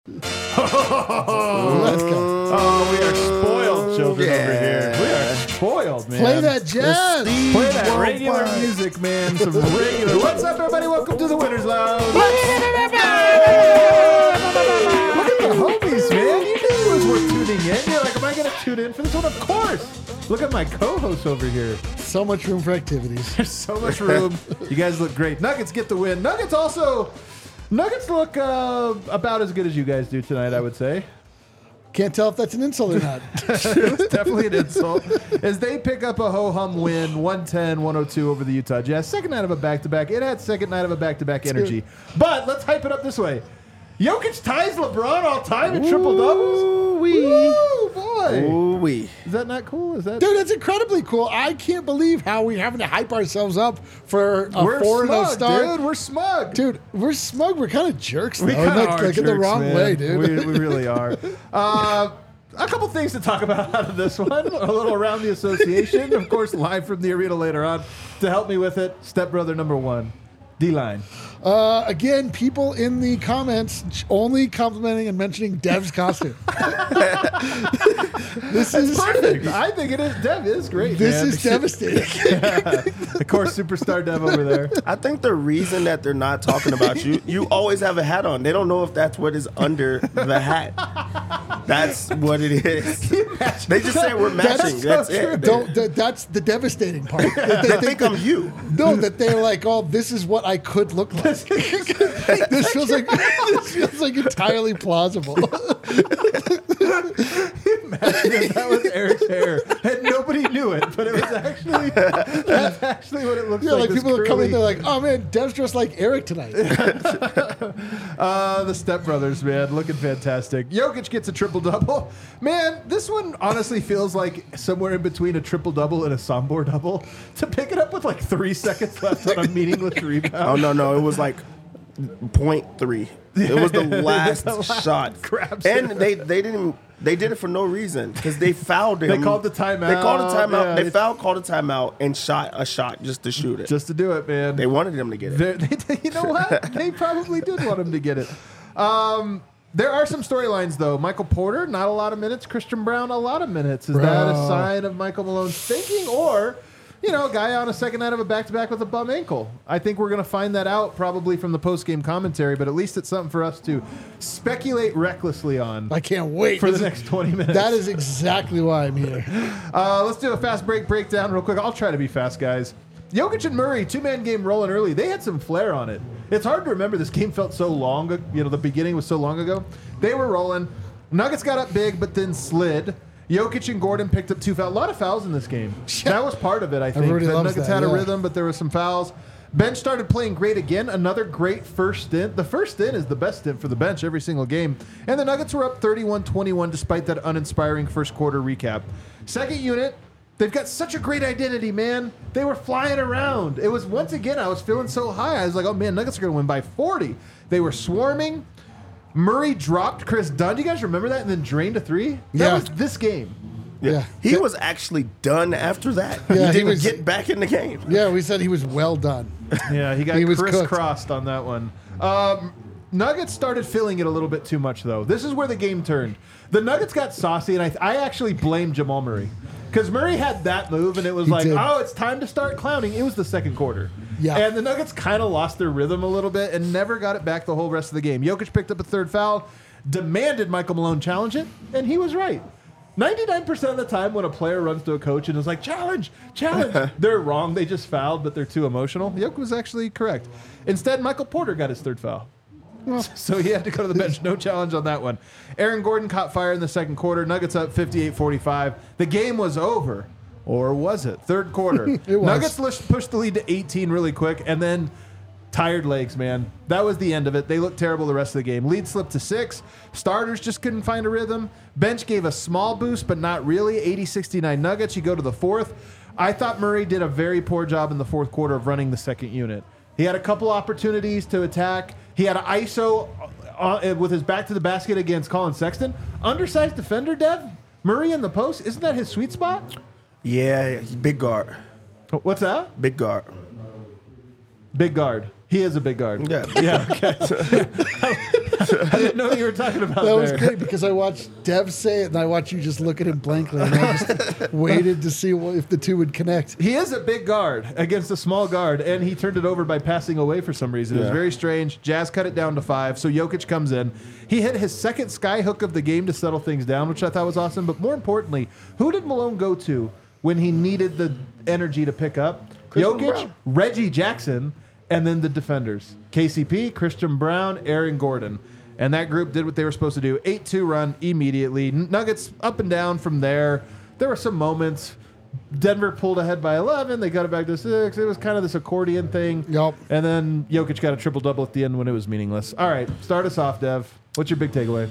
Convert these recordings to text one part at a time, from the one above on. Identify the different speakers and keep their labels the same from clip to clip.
Speaker 1: Let's go.
Speaker 2: Oh, we are spoiled children over here. We are spoiled, man.
Speaker 1: Play that jazz.
Speaker 2: Play that regular music, man. Some regular. What's up, everybody? Welcome to the Winners Lounge. Look at the homies, man. You knew it was worth tuning in. You're like, am I going to tune in for this one? Of course. Look at my co-host over here.
Speaker 1: So much room for activities.
Speaker 2: There's so much room. You guys look great. Nuggets get the win. Nuggets look about as good as you guys do tonight, I would say.
Speaker 1: Can't tell if that's an insult or not.
Speaker 2: It's definitely an insult. As they pick up a ho-hum win, 110-102 over the Utah Jazz. Second night of a back-to-back. It had second night of a back-to-back energy. But let's hype it up this way. Jokic ties LeBron all time in triple-doubles. Woo, boy.
Speaker 3: Ooh-wee.
Speaker 2: Is that not cool?
Speaker 1: Dude, that's incredibly cool. I can't believe how we're having to hype ourselves up for a 4-0 start.
Speaker 2: Dude, we're smug.
Speaker 1: Dude, we're smug. We're kind of jerks, though.
Speaker 2: We kind of are
Speaker 1: like in the
Speaker 2: jerks,
Speaker 1: wrong
Speaker 2: man.
Speaker 1: way, dude.
Speaker 2: We really are. A couple things to talk about out of this one. A little around the association. Of course, live from the arena later on. To help me with it, stepbrother number one, D-Line.
Speaker 1: Again, people in the comments only complimenting and mentioning Dev's costume. This is
Speaker 2: Perfect. I think it is. Dev is great.
Speaker 1: This
Speaker 2: man.
Speaker 1: is devastating.
Speaker 2: Of course, superstar Dev over there.
Speaker 3: I think the reason that they're not talking about you, you always have a hat on. They don't know if that's what is under the hat. That's what it is. They just say we're matching. That's it.
Speaker 1: That's the devastating part.
Speaker 3: They think I'm you.
Speaker 1: No, that they're like, oh, this is what I could look like. This feels like entirely plausible.
Speaker 2: Imagine if that was Eric's hair and nobody knew it, but it was actually that's actually what it looks
Speaker 1: Yeah,
Speaker 2: like.
Speaker 1: like people are coming, they're like, oh man, Dev's dressed like Eric tonight.
Speaker 2: The stepbrothers, man, looking fantastic. Jokic gets a triple-double. Man, this one honestly feels like somewhere in between a triple-double and a Sombor double. To pick it up with like 3 seconds left on a meaningless rebound.
Speaker 3: Oh, no. It was like 0.3. It was the last shot. And they did it for no reason because they fouled him.
Speaker 2: They called the timeout. Yeah,
Speaker 3: they called a timeout, and shot a shot just to shoot it.
Speaker 2: Just to do it, man.
Speaker 3: They wanted him to get it.
Speaker 2: You know what? They probably did want him to get it. There are some storylines, though. Michael Porter, not a lot of minutes. Christian Brown, a lot of minutes. Is that a sign of Michael Malone's thinking? Or, a guy on a second night of a back-to-back with a bum ankle? I think we're going to find that out probably from the post-game commentary, but at least it's something for us to speculate recklessly on.
Speaker 1: I can't wait.
Speaker 2: For the next 20 minutes.
Speaker 1: That is exactly why I'm here.
Speaker 2: Let's do a fast breakdown real quick. I'll try to be fast, guys. Jokic and Murray, two-man game rolling early. They had some flair on it. It's hard to remember. This game felt so long. The beginning was so long ago. They were rolling. Nuggets got up big, but then slid. Jokic and Gordon picked up 2 fouls. A lot of fouls in this game. That was part of it, I think. The Nuggets had a rhythm, but there were some fouls. Bench started playing great again. Another great first stint. The first stint is the best stint for the bench every single game. And the Nuggets were up 31-21 despite that uninspiring first quarter recap. Second unit, they've got such a great identity, man. They were flying around. It was, once again, I was feeling so high. I was like, oh, man, Nuggets are going to win by 40. They were swarming. Murray dropped Chris Dunn. Do you guys remember that? And then drained a 3? That was this game.
Speaker 3: Yeah. He was actually done after that.
Speaker 1: Yeah,
Speaker 3: he didn't get back in the game.
Speaker 1: Yeah, we said he was well done.
Speaker 2: Yeah, he got crisscrossed on that one. Nuggets started feeling it a little bit too much, though. This is where the game turned. The Nuggets got saucy, and I actually blame Jamal Murray. Because Murray had that move, and it was oh, it's time to start clowning. It was the second quarter.
Speaker 1: Yeah.
Speaker 2: And the Nuggets kind of lost their rhythm a little bit and never got it back the whole rest of the game. Jokic picked up a third foul, demanded Michael Malone challenge it, and he was right. 99% of the time when a player runs to a coach and is like, challenge, they're wrong. They just fouled, but they're too emotional. Jokic was actually correct. Instead, Michael Porter got his third foul. So he had to go to the bench. No challenge on that one. Aaron Gordon caught fire in the second quarter. Nuggets up 58-45. The game was over. Or was it? Third quarter.
Speaker 1: It was.
Speaker 2: Nuggets pushed the lead to 18 really quick, and then tired legs, man. That was the end of it. They looked terrible the rest of the game. Lead slipped to 6. Starters just couldn't find a rhythm. Bench gave a small boost, but not really. 80-69 Nuggets. You go to the fourth. I thought Murray did a very poor job in the fourth quarter of running the second unit. He had a couple opportunities to attack. He had an ISO with his back to the basket against Colin Sexton. Undersized defender, Dev. Murray in the post. Isn't that his sweet spot?
Speaker 3: Yeah, big guard.
Speaker 2: What's that?
Speaker 3: Big guard.
Speaker 2: Big guard. He is a big guard.
Speaker 3: Yeah.
Speaker 2: Yeah, okay. I didn't know you were talking about
Speaker 1: That was
Speaker 2: there.
Speaker 1: great because I watched Dev say it and I watched you just look at him blankly and I just waited to see if the two would connect.
Speaker 2: He is a big guard against a small guard, and he turned it over by passing away for some reason. It was
Speaker 3: Yeah.
Speaker 2: very strange. Jazz cut it down to 5, so Jokic comes in. He hit his second sky hook of the game to settle things down, which I thought was awesome. But more importantly, who did Malone go to when he needed the energy to pick up?
Speaker 3: Christian
Speaker 2: Jokic,
Speaker 3: Brown.
Speaker 2: Reggie Jackson, and then the defenders. KCP, Christian Brown, Aaron Gordon. And that group did what they were supposed to do. 8-2 run immediately. Nuggets up and down from there. There were some moments. Denver pulled ahead by 11. They got it back to 6. It was kind of this accordion thing.
Speaker 1: Yup.
Speaker 2: And then Jokic got a triple-double at the end when it was meaningless. All right, start us off, Dev. What's your big takeaway?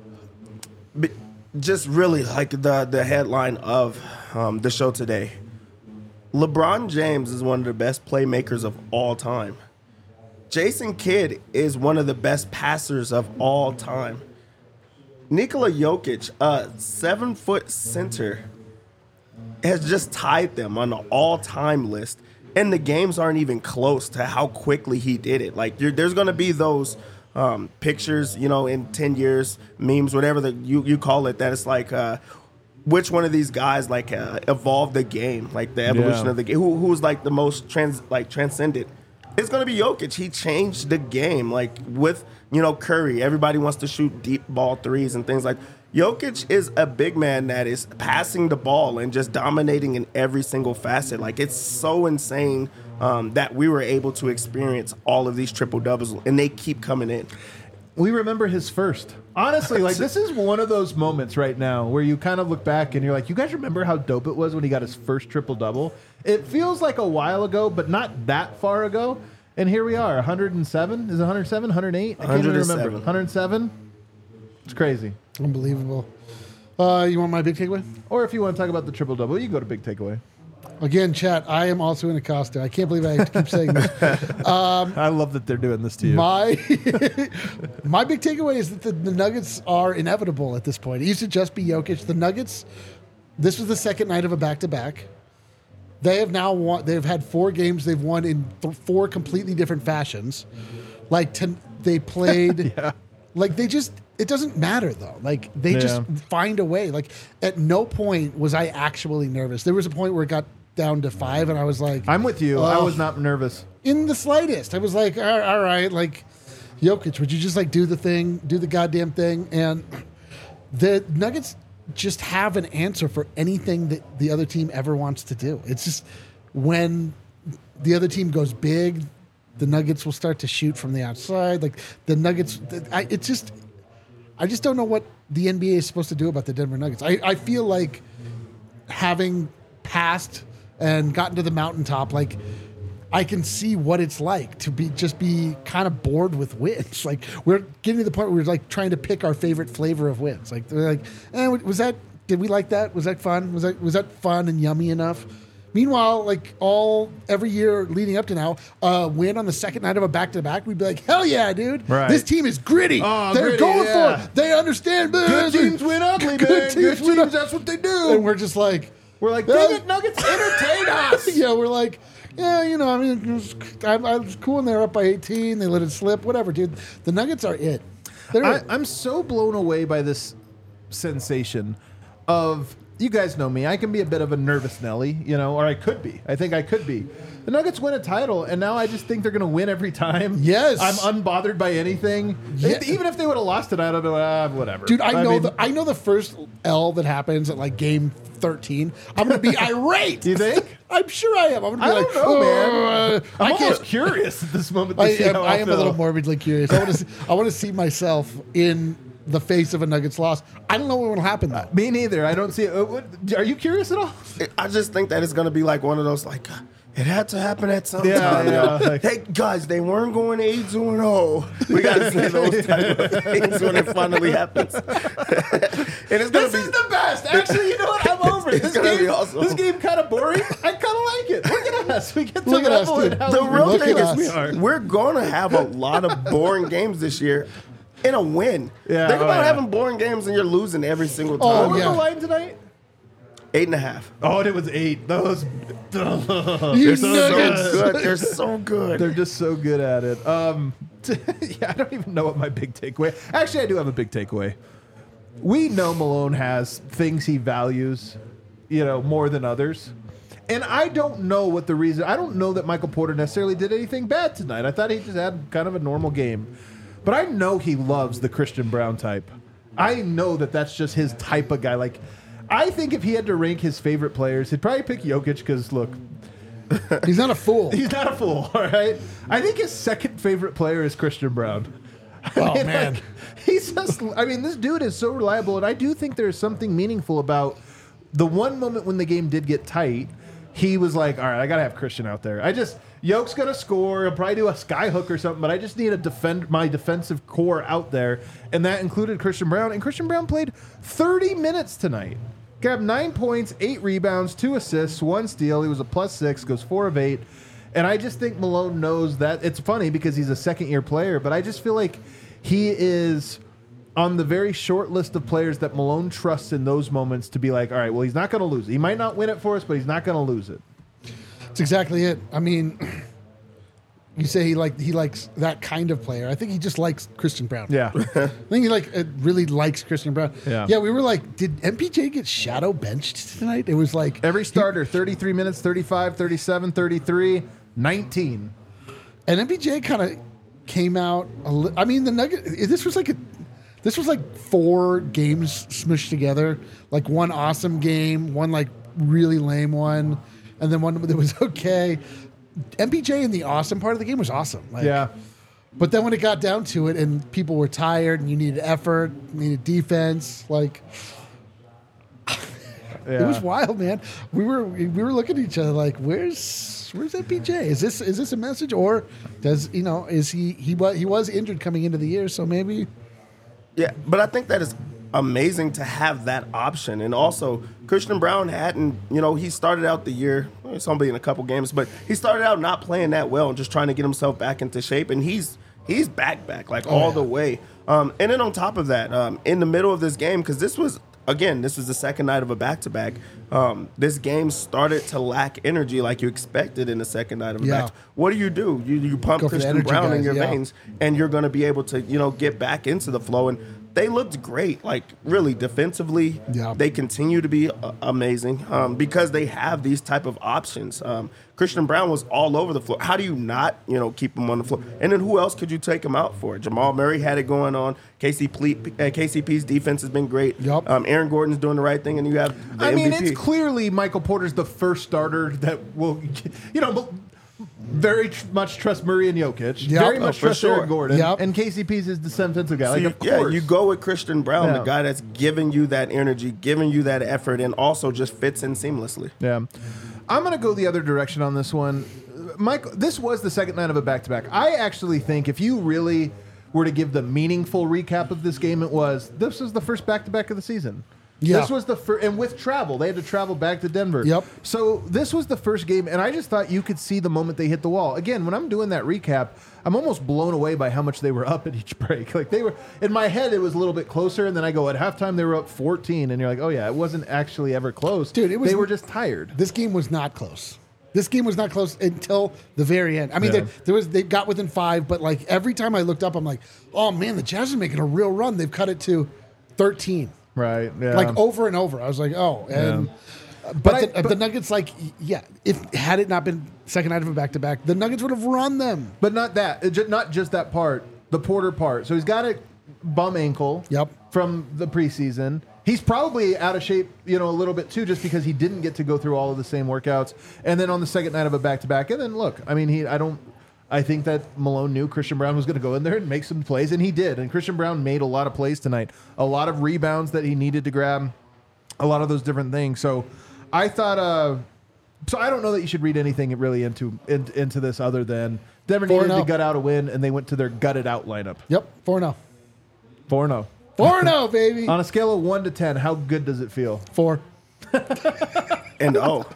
Speaker 3: Just really like the headline of the show today. LeBron James is one of the best playmakers of all time. Jason Kidd is one of the best passers of all time. Nikola Jokic, a 7-foot center, has just tied them on the all-time list. And the games aren't even close to how quickly he did it. Like, there's going to be those pictures, in 10 years, memes, whatever you call it, that it's like, which one of these guys, evolved the game, like the evolution
Speaker 2: Yeah.
Speaker 3: of the game, who's like the most transcendent. It's going to be Jokic. He changed the game, like with, Curry. Everybody wants to shoot deep ball threes and things like Jokic is a big man that is passing the ball and just dominating in every single facet. Like, it's so insane that we were able to experience all of these triple doubles, and they keep coming in.
Speaker 2: We remember his first. Honestly, this is one of those moments right now where you kind of look back and you're like, you guys remember how dope it was when he got his first triple-double? It feels like a while ago, but not that far ago. And here we are, 107? Is it 107? 108? I can't even remember.
Speaker 3: 107.
Speaker 2: 107? It's crazy.
Speaker 1: Unbelievable. You want my big takeaway?
Speaker 2: Or if you want to talk about the triple-double, you can go to big takeaway.
Speaker 1: Again, chat, I am also in Acosta. I can't believe I have to keep saying this.
Speaker 2: I love that they're doing this to you.
Speaker 1: My my big takeaway is that the Nuggets are inevitable at this point. It used to just be Jokic. The Nuggets, this was the second night of a back-to-back. They have now won. They've had 4 games they've won in 4 completely different fashions. They played.
Speaker 2: Yeah.
Speaker 1: It doesn't matter though. Like they just find a way. Like at no point was I actually nervous. There was a point where it got down to 5, and I was like,
Speaker 2: I'm with you. I was not nervous.
Speaker 1: in the slightest. I was like, all right, like Jokic, would you just do the thing, do the goddamn thing? And the Nuggets just have an answer for anything that the other team ever wants to do. It's just when the other team goes big, the Nuggets will start to shoot from the outside. Like the Nuggets, I just don't know what the NBA is supposed to do about the Denver Nuggets. I feel like having passed and gotten to the mountaintop, I can see what it's like to be kind of bored with wins. Like we're getting to the point where we're trying to pick our favorite flavor of wins. Like they're like, did we like that? Was that fun? Was that fun and yummy enough? Meanwhile, every year leading up to now, win on the second night of a back-to-back, we'd be like, hell yeah, dude.
Speaker 2: Right.
Speaker 1: This team is gritty.
Speaker 2: Oh,
Speaker 1: They're
Speaker 2: gritty,
Speaker 1: going
Speaker 2: yeah.
Speaker 1: for it. They understand.
Speaker 2: Good teams win ugly, man. Good teams, that's what they do.
Speaker 1: And we're just like...
Speaker 2: We're like, dang it, Nuggets, entertain us.
Speaker 1: Yeah, we're like, yeah, I was cool when they were up by 18. They let it slip. Whatever, dude. The Nuggets are it.
Speaker 2: I'm so blown away by this sensation of, you guys know me, I can be a bit of a nervous Nelly, or I could be. I think I could be. The Nuggets win a title, and now I just think they're going to win every time.
Speaker 1: Yes.
Speaker 2: I'm unbothered by anything.
Speaker 1: Yeah.
Speaker 2: Even if they would have lost tonight, I'd be like, whatever.
Speaker 1: Dude, I know the first L that happens at game 13. I'm going to be irate.
Speaker 2: Do you think?
Speaker 1: I'm sure I am. I'm going to be
Speaker 2: I
Speaker 1: like,
Speaker 2: don't know, man. I'm
Speaker 1: I can't.
Speaker 2: almost curious at this moment. To
Speaker 1: I
Speaker 2: see how I'll
Speaker 1: am a little
Speaker 2: feel.
Speaker 1: morbidly curious. I want to see myself in the face of a Nuggets loss. I don't know what will happen though.
Speaker 2: Me neither. I don't see it. Are you curious at all?
Speaker 3: I just think that it's going to be like one of those, it had to happen at some
Speaker 2: Yeah,
Speaker 3: time.
Speaker 2: yeah.
Speaker 3: Hey, guys, they weren't going 8-0. We got to say those type of things when it finally happens. And it's going to be...
Speaker 2: This is the best. Actually, you know what? I'm over it.
Speaker 3: It's gonna be awesome.
Speaker 2: This game kind of boring. I kind of like it. Look at us. We get to
Speaker 1: Look at us,
Speaker 2: level
Speaker 1: dude.
Speaker 2: it how
Speaker 3: The
Speaker 2: we
Speaker 3: real
Speaker 1: Look
Speaker 3: thing
Speaker 1: at
Speaker 3: is
Speaker 1: us.
Speaker 3: we're going to have a lot of boring games this year in a win.
Speaker 2: Yeah,
Speaker 3: Think about
Speaker 2: yeah.
Speaker 3: having boring games and you're losing every single
Speaker 1: Oh,
Speaker 3: time.
Speaker 2: What was
Speaker 1: yeah.
Speaker 2: the line tonight?
Speaker 3: 8.5.
Speaker 2: Oh, it was 8. Those.
Speaker 1: You
Speaker 3: So
Speaker 1: Nuggets.
Speaker 3: good. They're so good.
Speaker 2: They're just so good at it. I don't even know what my big takeaway. Actually, I do have a big takeaway. We know Malone has things he values, more than others. And I don't know what the reason. I don't know that Michael Porter necessarily did anything bad tonight. I thought he just had kind of a normal game. But I know he loves the Christian Brown type. I know that that's just his type of guy. Like, I think if he had to rank his favorite players, he'd probably pick Jokic because, look,
Speaker 1: he's not a fool.
Speaker 2: He's not a fool, all right? I think his second favorite player is Christian Brown.
Speaker 1: Man.
Speaker 2: He's just, this dude is so reliable, and I do think there's something meaningful about the one moment when the game did get tight. He was like, all right, I got to have Christian out there. Yoke's going to score. He'll probably do a sky hook or something, but I just need to defend my defensive core out there, and that included Christian Brown. And Christian Brown played 30 minutes tonight. Grabbed 9 points, 8 rebounds, 2 assists, 1 steal. He was a +6, goes 4 of 8. And I just think Malone knows that. It's funny because he's a second-year player, but I just feel like he is on the very short list of players that Malone trusts in those moments to be like, all right, well, he's not going to lose it. He might not win it for us, but he's not going to lose it.
Speaker 1: That's exactly it. You say he likes that kind of player. I think he just likes Christian Brown.
Speaker 2: Yeah.
Speaker 1: I think he really likes Christian Brown.
Speaker 2: Yeah.
Speaker 1: We were like, did MPJ get shadow benched tonight? It was like
Speaker 2: every starter, 33 minutes, 35, 37, 33, 19.
Speaker 1: And MPJ kind of came out. The Nugget. This was like 4 games smushed together. Like one awesome game, one like really lame one, and then one that was okay. MPJ in the awesome part of the game was awesome. But then when it got down to it, and people were tired, and you needed effort, needed defense, it was wild, man. We were looking at each other like, where's MPJ? Is this a message, or does is he was injured coming into the year, so maybe.
Speaker 3: Yeah, but I think that is amazing to have that option. And also, Christian Brown hadn't, he started out the year, it's only in a couple games, but he started out not playing that well and just trying to get himself back into shape. And he's back, all the way. And then on top of that, in the middle of this game, because this was the second night of a back-to-back. This game started to lack energy like you expected in the second night of a back. What do? You pump Christian Brown in your veins, and you're going to be able to, get back into the flow. And they looked great, really defensively.
Speaker 1: Yeah.
Speaker 3: They continue to be amazing because they have these type of options. Christian Brown was all over the floor. How do you not, keep him on the floor? And then who else could you take him out for? Jamal Murray had it going on. KCP's defense has been great.
Speaker 1: Yep.
Speaker 3: Aaron Gordon's doing the right thing, and you have the MVP.
Speaker 2: It's clearly Michael Porter's the first starter that will, very much trust Murray and Jokic.
Speaker 1: Yep.
Speaker 2: Very much trust Aaron Gordon.
Speaker 1: Yep.
Speaker 2: And KCP's is the defensive guy.
Speaker 3: So
Speaker 2: of course.
Speaker 3: you go with Christian Brown, the guy that's giving you that energy, giving you that effort, and also just fits in seamlessly.
Speaker 2: Yeah. I'm going to go the other direction on this one. Mike, this was the second night of a back-to-back. I actually think if you really were to give the meaningful recap of this game, this was the first back-to-back of the season.
Speaker 1: Yeah.
Speaker 2: This was the first, and with travel, they had to travel back to Denver.
Speaker 1: Yep.
Speaker 2: So this was the first game, and I just thought you could see the moment they hit the wall. Again, when I'm doing that recap, I'm almost blown away by how much they were up at each break. Like they were, in my head, it was a little bit closer, and then I go, at halftime, they were up 14, and you're like, oh yeah, it wasn't actually ever close.
Speaker 1: Dude,
Speaker 2: they were just tired.
Speaker 1: This game was not close. This game was not close until the very end. They got within 5, but like every time I looked up, I'm like, oh man, the Jazz are making a real run. They've cut it to 13.
Speaker 2: Right. Yeah.
Speaker 1: Like over and over. I was like, oh. And but the Nuggets, had it not been second night of a back-to-back, the Nuggets would have run them.
Speaker 2: But not that. Not just that part. The Porter part. So he's got a bum ankle.
Speaker 1: Yep. From
Speaker 2: the preseason. He's probably out of shape, a little bit too, just because he didn't get to go through all of the same workouts. And then on the second night of a back-to-back, and then look, I think that Malone knew Christian Brown was going to go in there and make some plays, and he did. And Christian Brown made a lot of plays tonight, a lot of rebounds that he needed to grab, a lot of those different things. So I thought, so I don't know that you should read anything really into this other than Denver needed to gut out a win, and they went to their gutted out lineup.
Speaker 1: Yep, 4-0.
Speaker 2: 4-0.
Speaker 1: 4-0, baby.
Speaker 2: On a scale of 1 to 10, how good does it feel?
Speaker 1: 4.
Speaker 3: And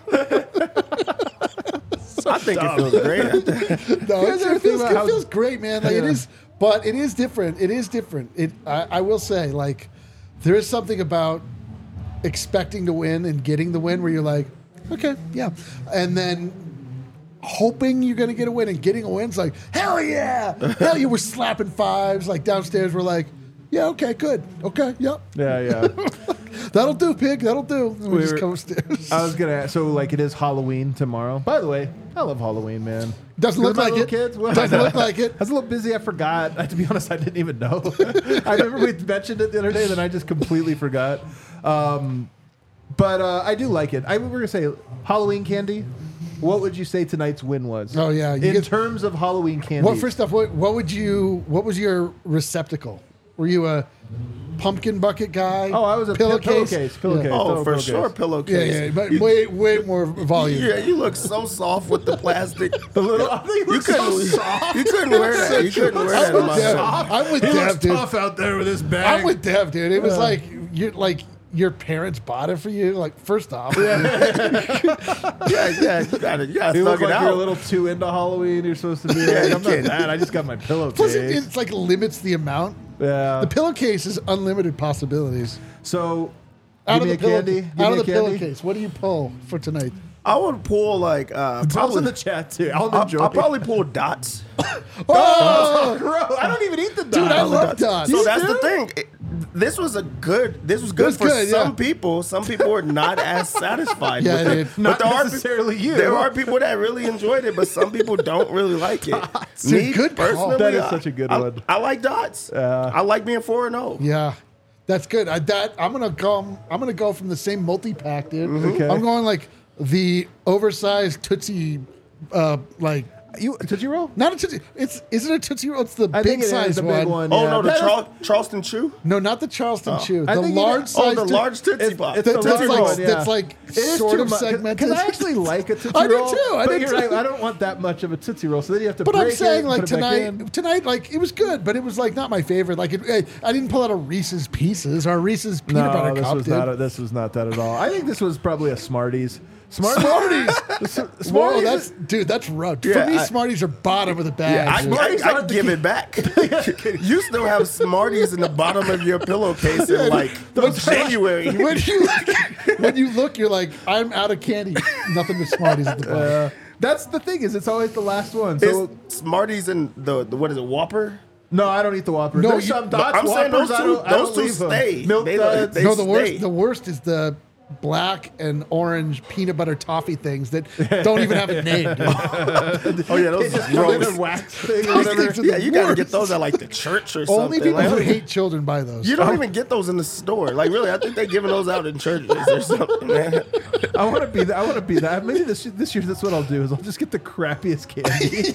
Speaker 3: I think it feels great.
Speaker 1: No, it feels great, man. It is, but it is different. It is different. I will say, there is something about expecting to win and getting the win where you're like, okay, yeah, and then hoping you're going to get a win and getting a win. It's like, hell yeah. Hell yeah. We're slapping fives. Like downstairs, we're like, yeah, okay, good. Okay, yep.
Speaker 2: Yeah.
Speaker 1: That'll do, pig. That'll do. And we just
Speaker 2: were-
Speaker 1: come upstairs.
Speaker 2: I was gonna ask, so like it is Halloween tomorrow. By the way, I love Halloween, man.
Speaker 1: Doesn't look
Speaker 2: My
Speaker 1: like
Speaker 2: little
Speaker 1: it.
Speaker 2: Kids? Well,
Speaker 1: Doesn't
Speaker 2: I know.
Speaker 1: look like it.
Speaker 2: I was a little busy. I forgot. To be honest, I didn't even know. I remember we mentioned it the other day, then I just completely forgot. But I do like it. We were gonna say Halloween candy. What would you say tonight's win was?
Speaker 1: Oh, yeah. You
Speaker 2: In
Speaker 1: get-
Speaker 2: terms of Halloween candy.
Speaker 1: Well, first off, what was your receptacle? Were you a pumpkin bucket guy?
Speaker 2: Oh, I was a
Speaker 1: pillowcase.
Speaker 2: pillowcase.
Speaker 1: Yeah.
Speaker 3: Oh, for
Speaker 2: Pillowcase.
Speaker 3: sure,
Speaker 1: Yeah,
Speaker 3: pillowcase.
Speaker 1: yeah, but
Speaker 3: You-
Speaker 1: way more volume.
Speaker 3: Yeah, you look so soft with the plastic.
Speaker 2: The little, I think
Speaker 3: You couldn't wear that. You couldn't wear that in my
Speaker 1: Dev,
Speaker 3: house.
Speaker 1: I'm with
Speaker 2: he
Speaker 1: Dev,
Speaker 2: looks
Speaker 1: dude.
Speaker 2: tough out there with his bag.
Speaker 1: I'm with Dev, dude. It was like your parents bought it for you. Like, first off,
Speaker 3: Yeah, you gotta
Speaker 2: You
Speaker 3: thug
Speaker 2: look
Speaker 3: it
Speaker 2: like you're a
Speaker 3: out.
Speaker 2: little too into Halloween. You're supposed to be
Speaker 3: Yeah,
Speaker 2: like,
Speaker 3: you
Speaker 2: I'm not
Speaker 3: can't.
Speaker 2: that. I just got my pillowcase.
Speaker 1: plus it's like limits the amount.
Speaker 2: Yeah.
Speaker 1: The pillowcase is unlimited possibilities.
Speaker 2: So,
Speaker 1: Out
Speaker 2: give
Speaker 1: of
Speaker 2: me
Speaker 1: the
Speaker 2: a candy. Give
Speaker 1: out
Speaker 2: me
Speaker 1: of the
Speaker 2: a candy.
Speaker 1: pillowcase, what do you pull for tonight?
Speaker 3: I would pull like
Speaker 2: Tell us in
Speaker 3: probably.
Speaker 2: the chat too. I'll
Speaker 3: I'll
Speaker 2: enjoy.
Speaker 3: probably pull dots.
Speaker 1: Oh,
Speaker 2: Gross. I don't even eat the
Speaker 1: dude, I
Speaker 2: dots.
Speaker 1: love dots.
Speaker 3: So that's the thing. This was good
Speaker 1: was
Speaker 3: for
Speaker 1: good,
Speaker 3: some
Speaker 1: yeah.
Speaker 3: people. Some people were not as satisfied
Speaker 1: Yeah,
Speaker 3: with it.
Speaker 1: dude.
Speaker 3: But
Speaker 2: Not
Speaker 3: there are
Speaker 2: necessarily you.
Speaker 3: There are people that really enjoyed it, but some people don't really like it.
Speaker 1: a good call.
Speaker 3: personally,
Speaker 2: That is such a good one.
Speaker 3: I like dots. I like being 4-0.
Speaker 1: Yeah, that's good. I'm gonna go from the same multi-pack, dude.
Speaker 2: Okay.
Speaker 1: I'm going like the oversized Tootsie, like
Speaker 2: You Tootsie Roll?
Speaker 1: not a Tootsie. Is it a Tootsie Roll? It's the
Speaker 2: I think
Speaker 1: big
Speaker 2: it is
Speaker 1: size
Speaker 2: the
Speaker 1: one.
Speaker 2: big one.
Speaker 3: Oh
Speaker 2: yeah.
Speaker 3: no, the
Speaker 2: That is-
Speaker 3: Charleston Chew.
Speaker 1: No, not the Charleston Chew.
Speaker 2: I
Speaker 1: The
Speaker 2: think you
Speaker 1: large
Speaker 2: know-
Speaker 1: size.
Speaker 3: Oh, the large Tootsie
Speaker 2: It's,
Speaker 3: Pop.
Speaker 2: it's
Speaker 1: That's
Speaker 2: the large
Speaker 1: like-
Speaker 2: one, yeah.
Speaker 1: that's like
Speaker 2: It is
Speaker 1: sort
Speaker 2: too
Speaker 1: of
Speaker 2: much,
Speaker 1: segmented.
Speaker 2: Because I actually like a Tootsie
Speaker 1: I do
Speaker 2: Roll.
Speaker 1: too, I
Speaker 2: but
Speaker 1: do
Speaker 2: you're
Speaker 1: too.
Speaker 2: right. I don't want that much of a Tootsie Roll. So then you have to
Speaker 1: But
Speaker 2: break
Speaker 1: I'm saying
Speaker 2: it,
Speaker 1: like
Speaker 2: put it back in.
Speaker 1: tonight, like it was good, but it was like not my favorite. Like I didn't pull out a Reese's Pieces or a Reese's peanut butter
Speaker 2: No, this
Speaker 1: cup,
Speaker 2: was
Speaker 1: dude.
Speaker 2: not. This was not that at all. I think this was probably a Smarties.
Speaker 1: Smarties.
Speaker 2: Smarties.
Speaker 1: Whoa, that's rough. For
Speaker 3: Yeah,
Speaker 1: me,
Speaker 3: I-
Speaker 1: Smarties are bottom of the bag.
Speaker 3: Yeah,
Speaker 1: dude.
Speaker 2: Smarties
Speaker 3: I
Speaker 2: aren't the
Speaker 3: give it back. You still have Smarties in the bottom of your pillowcase in like January.
Speaker 1: when you look, you're like, I'm out of candy. Nothing but Smarties at the bottom.
Speaker 2: That's the thing is, it's always the last one. So
Speaker 3: It's Smarties and the what is it, Whopper?
Speaker 2: no, I don't eat the Whopper.
Speaker 1: No,
Speaker 2: There's
Speaker 1: you-
Speaker 2: some dots.
Speaker 3: I'm saying
Speaker 2: Whoppers,
Speaker 3: those
Speaker 2: I
Speaker 3: two-
Speaker 2: don't- I don't
Speaker 3: those two
Speaker 2: leave them.
Speaker 3: stay.
Speaker 2: Milk
Speaker 3: They-
Speaker 2: duds.
Speaker 3: they-
Speaker 1: No,
Speaker 3: stay.
Speaker 1: the worst is the black and orange peanut butter toffee things that don't even have a name. Dude.
Speaker 3: Oh yeah, those
Speaker 2: Just
Speaker 3: are
Speaker 2: come in
Speaker 3: gross.
Speaker 2: and wax thing or
Speaker 1: Those
Speaker 2: whatever.
Speaker 1: things are
Speaker 3: Yeah,
Speaker 1: the
Speaker 3: you gotta
Speaker 1: worst.
Speaker 3: get those at like the church or
Speaker 1: Only
Speaker 3: something.
Speaker 1: people
Speaker 3: Like,
Speaker 1: who hate children buy those.
Speaker 3: you don't even get those in the store. Like really, I think they're giving those out in churches or something, man.
Speaker 2: I want to be that. I want to be that. Maybe this year, that's what I'll do. Is I'll just get the crappiest candy.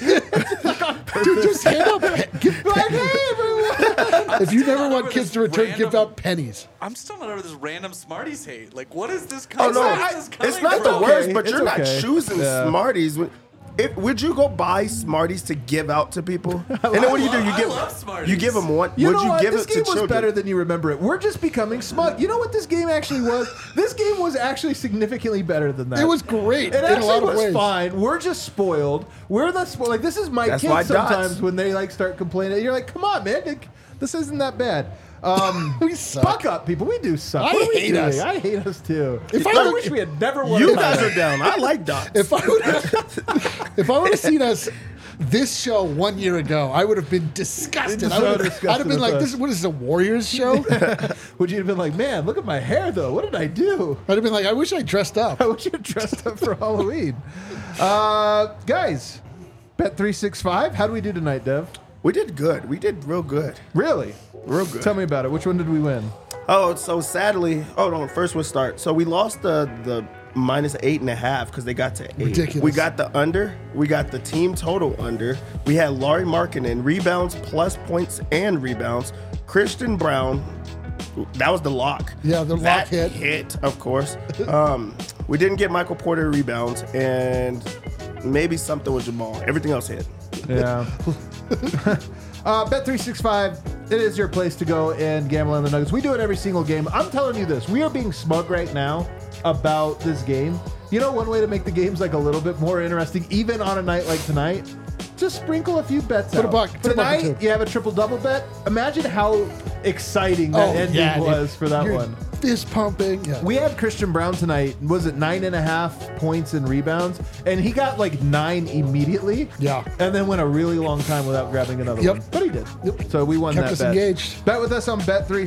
Speaker 1: Dude, just hand out. Give,
Speaker 2: Like, hey, everyone.
Speaker 1: if you never
Speaker 4: not
Speaker 1: want
Speaker 4: over
Speaker 1: kids
Speaker 4: this
Speaker 1: to return,
Speaker 4: random-
Speaker 1: give out pennies.
Speaker 4: I'm still not over this random Smarties hate. Like, what is this?
Speaker 3: Oh no,
Speaker 4: where is this coming
Speaker 3: it's not the
Speaker 4: from?
Speaker 3: worst, but
Speaker 2: It's
Speaker 3: you're not
Speaker 2: okay.
Speaker 3: choosing
Speaker 2: Yeah.
Speaker 3: Smarties. Would you go buy Smarties to give out to people? And then what do? You
Speaker 4: I
Speaker 3: give
Speaker 4: love Smarties.
Speaker 3: you give them one.
Speaker 2: You
Speaker 3: Would
Speaker 2: know
Speaker 3: you
Speaker 2: what?
Speaker 3: give
Speaker 2: This
Speaker 3: it
Speaker 2: game
Speaker 3: to
Speaker 2: was
Speaker 3: children?
Speaker 2: better than you remember it. We're just becoming smug. You know what this game actually was? This game was actually significantly better than that.
Speaker 1: It was great
Speaker 2: It
Speaker 1: in a
Speaker 2: actually
Speaker 1: lot of
Speaker 2: was
Speaker 1: ways.
Speaker 2: fine. We're just spoiled. We're the spoiled. Like this is my
Speaker 3: That's why
Speaker 2: kids sometimes
Speaker 3: dots.
Speaker 2: when they like start complaining. You're like, come on, man, like, this isn't that bad.
Speaker 1: We suck.
Speaker 2: Buck up, people. We do suck.
Speaker 1: I
Speaker 2: What are we
Speaker 1: hate
Speaker 2: doing?
Speaker 1: us.
Speaker 2: I hate us too.
Speaker 1: If I
Speaker 2: I
Speaker 1: were-
Speaker 2: wish we had never won.
Speaker 3: You
Speaker 2: a
Speaker 3: guys
Speaker 2: title.
Speaker 3: are down. I like dots.
Speaker 1: If I would have seen us this show 1 year ago, I would have been disgusted.
Speaker 2: So
Speaker 1: I'd have
Speaker 2: disgusted
Speaker 1: been like,
Speaker 2: with
Speaker 1: "This what is this, a Warriors show?"
Speaker 2: Would you have been like, man, look at my hair though? What did I do?
Speaker 1: I'd have been like, "I wish I dressed up."
Speaker 2: I wish you had dressed up for Halloween. Guys, Bet365. How do we do tonight, Dev?
Speaker 3: We did good. We did real good.
Speaker 2: Really?
Speaker 3: Real good.
Speaker 2: Tell me about it. Which one did we win?
Speaker 3: Oh, so sadly, no. First we'll start. So we lost the minus 8.5 because they got to 8.
Speaker 1: Ridiculous.
Speaker 3: We got the under. We got the team total under. We had Laurie Markkinen rebounds, plus points and rebounds. Christian Brown, that was the lock.
Speaker 1: Yeah, the lock
Speaker 3: That
Speaker 1: hit.
Speaker 3: of course. We didn't get Michael Porter rebounds and maybe something with Jamal. Everything else hit.
Speaker 2: Yeah. Bet365, it is your place to go and gamble on the Nuggets. We do it every single game. I'm telling you this, we are being smug right now about this game. You know, one way to make the games like a little bit more interesting, even on a night like tonight, just sprinkle a few bets
Speaker 1: Put a
Speaker 2: out.
Speaker 1: buck- put a buck or
Speaker 2: Tonight,
Speaker 1: two.
Speaker 2: you have a triple-double bet. Imagine how exciting that ending was for that
Speaker 1: You're
Speaker 2: one.
Speaker 1: fist pumping. Yeah.
Speaker 2: We had Christian Brown tonight. Was it 9.5 points and rebounds? And he got like 9 immediately.
Speaker 1: Yeah.
Speaker 2: And then went a really long time without grabbing another
Speaker 1: Yep.
Speaker 2: one. But he did.
Speaker 1: Yep.
Speaker 2: So we won
Speaker 1: Kept
Speaker 2: that
Speaker 1: us
Speaker 2: bet.
Speaker 1: engaged.
Speaker 2: Bet with us on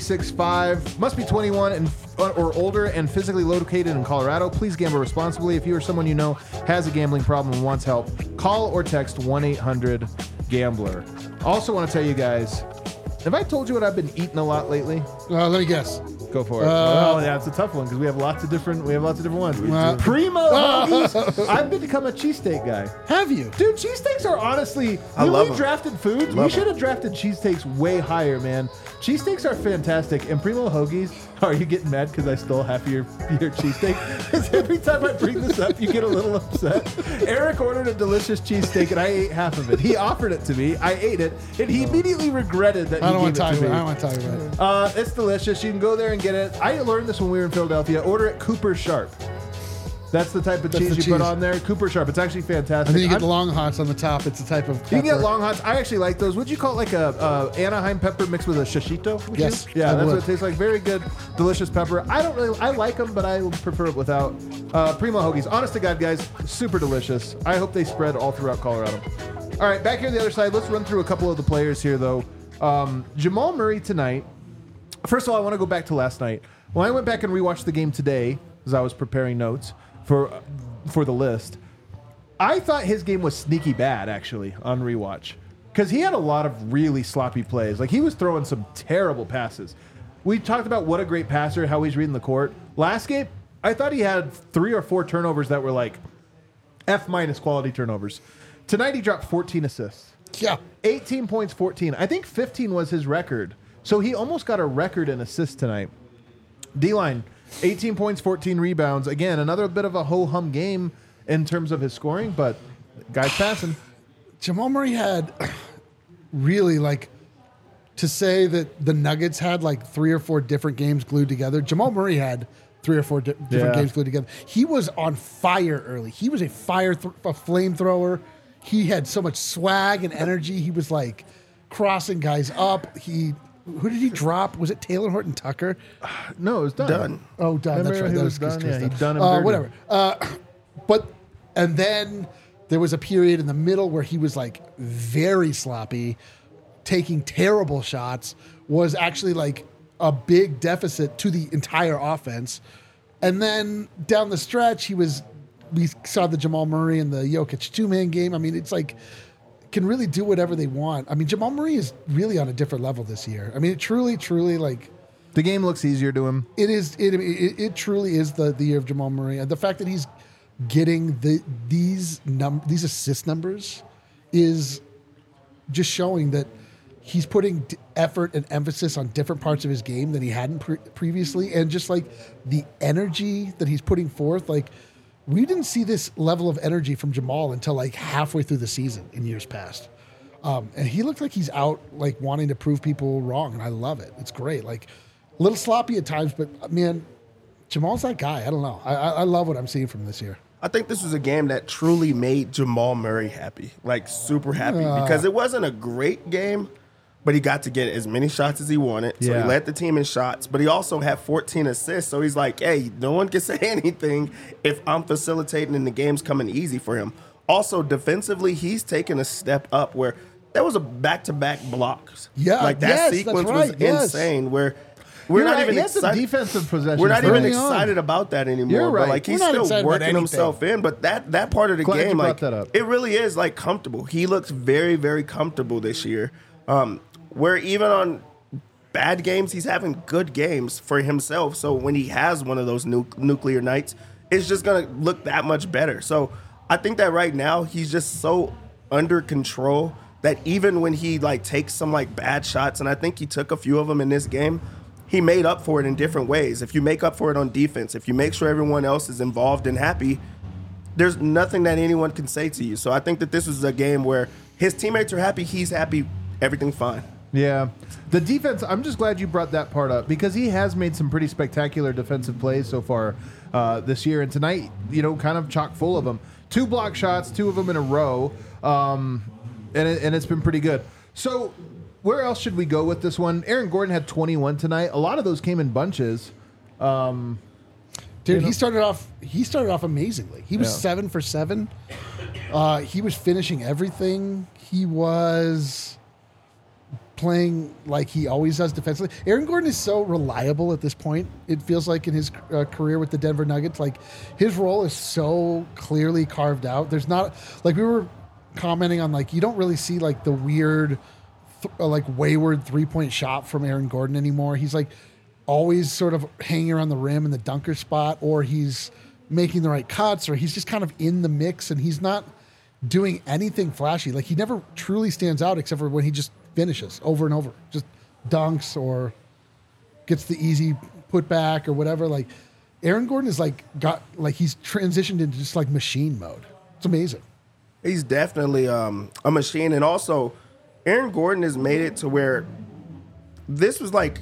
Speaker 2: Bet365. Must be 21 or older and physically located in Colorado. Please gamble responsibly. If you or someone you know has a gambling problem and wants help, call or text 1-800-GAMBLER. Also want to tell you guys, have I told you what I've been eating a lot lately?
Speaker 1: Let me guess.
Speaker 2: Go for it. Well, yeah, it's a tough one because we have lots of different ones. Primo Hoagies. I've become a cheesesteak guy.
Speaker 1: Have you?
Speaker 2: Dude, cheesesteaks are honestly,
Speaker 3: I
Speaker 2: when
Speaker 3: love
Speaker 2: we
Speaker 3: 'em.
Speaker 2: drafted foods, we
Speaker 3: Love
Speaker 2: should have drafted cheesesteaks way higher, man. Cheesesteaks are fantastic. And Primo Hoagies, are you getting mad because I stole half of your cheesesteak? Because every time I bring this up, you get a little upset. Eric ordered a delicious cheesesteak and I ate half of it. He offered it to me. I ate it. And he immediately regretted that
Speaker 1: I
Speaker 2: he
Speaker 1: don't want
Speaker 2: gave
Speaker 1: to
Speaker 2: it
Speaker 1: talk
Speaker 2: to me.
Speaker 1: about it. I don't want to talk about it.
Speaker 2: It's delicious. You can go there and get it. I learned this when we were in Philadelphia. Order it Cooper Sharp. That's the type of
Speaker 1: That's
Speaker 2: cheese
Speaker 1: the
Speaker 2: you put
Speaker 1: cheese.
Speaker 2: on there. Cooper Sharp. It's actually fantastic.
Speaker 1: And then you get
Speaker 2: I'm-
Speaker 1: the long hots on the top. It's a type of pepper.
Speaker 2: you can get long hots. I actually like those. Would you call it like a Anaheim pepper mixed with a shishito? Would
Speaker 1: Yes,
Speaker 2: you? Yeah,
Speaker 1: I
Speaker 2: that's
Speaker 1: would.
Speaker 2: what it tastes like. Very good, delicious pepper. I like them, but I prefer it without. Primo Hoagies. Honest to God, guys, super delicious. I hope they spread all throughout Colorado. All right, back here on the other side, let's run through a couple of the players here, though. Jamal Murray tonight. First of all, I want to go back to last night. When I went back and rewatched the game today, as I was preparing notes for the list, I thought his game was sneaky bad, actually, on rewatch. Because he had a lot of really sloppy plays. Like, he was throwing some terrible passes. We talked about what a great passer, how he's reading the court. Last game, I thought he had 3 or 4 turnovers that were like F- quality turnovers. Tonight, he dropped 14 assists.
Speaker 1: Yeah.
Speaker 2: 18 points, 14. I think 15 was his record. So he almost got a record in assists tonight. D-line, 18 points, 14 rebounds. Again, another bit of a ho-hum game in terms of his scoring, but guy's passing.
Speaker 1: Jamal Murray had really like to say that the Nuggets had like 3 or 4 different games glued together. Jamal Murray had 3 or 4 different
Speaker 2: Yeah.
Speaker 1: games glued together. He was on fire early. He was a flamethrower. He had so much swag and energy. He was like crossing guys up. Who did he drop? Was it Taylor Horton Tucker?
Speaker 2: No, it was done.
Speaker 3: Done.
Speaker 1: Oh, done.
Speaker 2: Remember
Speaker 1: That's right.
Speaker 2: he
Speaker 1: That
Speaker 2: was
Speaker 1: was
Speaker 2: done? Yeah, he done him dirty.
Speaker 1: whatever. And then there was a period in the middle where he was like very sloppy, taking terrible shots, was actually like a big deficit to the entire offense. And then down the stretch, we saw the Jamal Murray and the Jokic 2-man game. I mean, it's like, can really do whatever they want. I mean, Jamal Murray is really on a different level this year. I mean, it truly, like,
Speaker 2: The game looks easier to him.
Speaker 1: it is. It truly is the year of Jamal Murray, and the fact that he's getting these assist numbers is just showing that he's putting effort and emphasis on different parts of his game than he hadn't previously, and just like the energy that he's putting forth, like. We didn't see this level of energy from Jamal until like halfway through the season in years past. And he looked like he's out like wanting to prove people wrong. And I love it. It's great. Like a little sloppy at times, but man, Jamal's that guy. I don't know. I love what I'm seeing from this year.
Speaker 3: I think this was a game that truly made Jamal Murray happy, like super happy, because it wasn't a great game, but he got to get as many shots as he wanted. So
Speaker 2: Yeah.
Speaker 3: he led the team in shots, but he also had 14 assists. So he's like, hey, no one can say anything if I'm facilitating and the game's coming easy for him. Also, defensively, he's taken a step up where there was a back-to-back blocks.
Speaker 1: Yeah,
Speaker 3: like that
Speaker 1: yes, that's
Speaker 3: sequence
Speaker 1: right,
Speaker 3: was
Speaker 1: yes.
Speaker 3: insane where we're
Speaker 2: You're
Speaker 3: not
Speaker 2: right,
Speaker 3: even
Speaker 2: he had some
Speaker 3: excited.
Speaker 2: defensive possessions.
Speaker 3: We're not even
Speaker 1: early on.
Speaker 3: excited about that anymore.
Speaker 2: You're right.
Speaker 3: But like he's
Speaker 1: We're not
Speaker 3: still
Speaker 1: excited about
Speaker 3: working
Speaker 1: anything.
Speaker 3: himself in. But that part of the
Speaker 2: Glad you
Speaker 3: game,
Speaker 2: brought
Speaker 3: like
Speaker 2: that up.
Speaker 3: it really is like comfortable. He looks very, very comfortable this year. Where even on bad games, he's having good games for himself. So when he has one of those nuclear nights, it's just gonna look that much better. So I think that right now he's just so under control that even when he like takes some like bad shots, and I think he took a few of them in this game, he made up for it in different ways. If you make up for it on defense, if you make sure everyone else is involved and happy, there's nothing that anyone can say to you. So I think that this was a game where his teammates are happy, he's happy, everything's fine.
Speaker 2: Yeah. The defense, I'm just glad you brought that part up because he has made some pretty spectacular defensive plays so far this year. And tonight, kind of chock full of them. 2 block shots, 2 of them in a row. And it's been pretty good. So where else should we go with this one? Aaron Gordon had 21 tonight. A lot of those came in bunches.
Speaker 1: Dude, he started off amazingly. He was 7 for 7. He was finishing everything. He was playing like he always does defensively. Aaron Gordon is so reliable at this point. It feels like in his career with the Denver Nuggets, like his role is so clearly carved out. There's not like we were commenting on, like you don't really see like the weird, like wayward 3-point shot from Aaron Gordon anymore. He's like always sort of hanging around the rim in the dunker spot, or he's making the right cuts, or he's just kind of in the mix, and he's not doing anything flashy. Like he never truly stands out except for when he just finishes over and over, just dunks or gets the easy putback or whatever. Like Aaron Gordon is he's transitioned into just like machine mode. It's amazing.
Speaker 3: He's definitely a machine. And also, Aaron Gordon has made it to where this was like,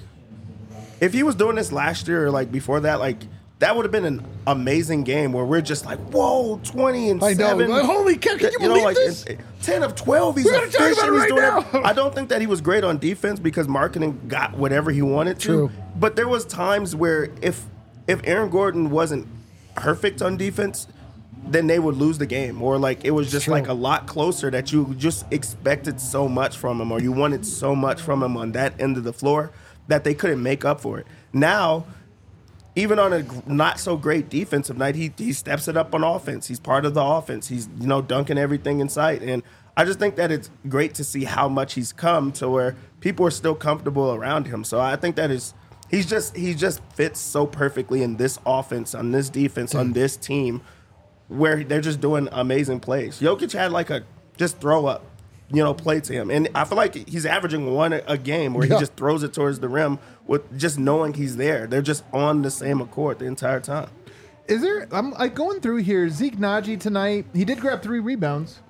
Speaker 3: if he was doing this last year or like before that, like that would have been an amazing game where we're just like, whoa, 20 and 7.
Speaker 1: I know. Like, holy cow, can you believe this?
Speaker 3: 10 of 12. He's
Speaker 1: We're gonna talk
Speaker 3: efficient.
Speaker 1: about it
Speaker 3: He's
Speaker 1: right
Speaker 3: doing
Speaker 1: now.
Speaker 3: I don't think that he was great on defense because marketing got whatever he wanted to.
Speaker 1: True.
Speaker 3: But there was times where if Aaron Gordon wasn't perfect on defense, then they would lose the game, or like it was just
Speaker 1: True.
Speaker 3: like a lot closer that you just expected so much from him, or you wanted so much from him on that end of the floor that they couldn't make up for it. Now, even on a not so great defensive night, he steps it up on offense. He's part of the offense. He's dunking everything in sight, and I just think that it's great to see how much he's come to where people are still comfortable around him. So I think that he just fits so perfectly in this offense, on this defense, on this team, where they're just doing amazing plays. Jokic had like a just throw up, play to him. And I feel like he's averaging one a game where he just throws it towards the rim with just knowing he's there. They're just on the same accord the entire time.
Speaker 2: I'm like going through here. Zeke Naji tonight, he did grab 3 rebounds.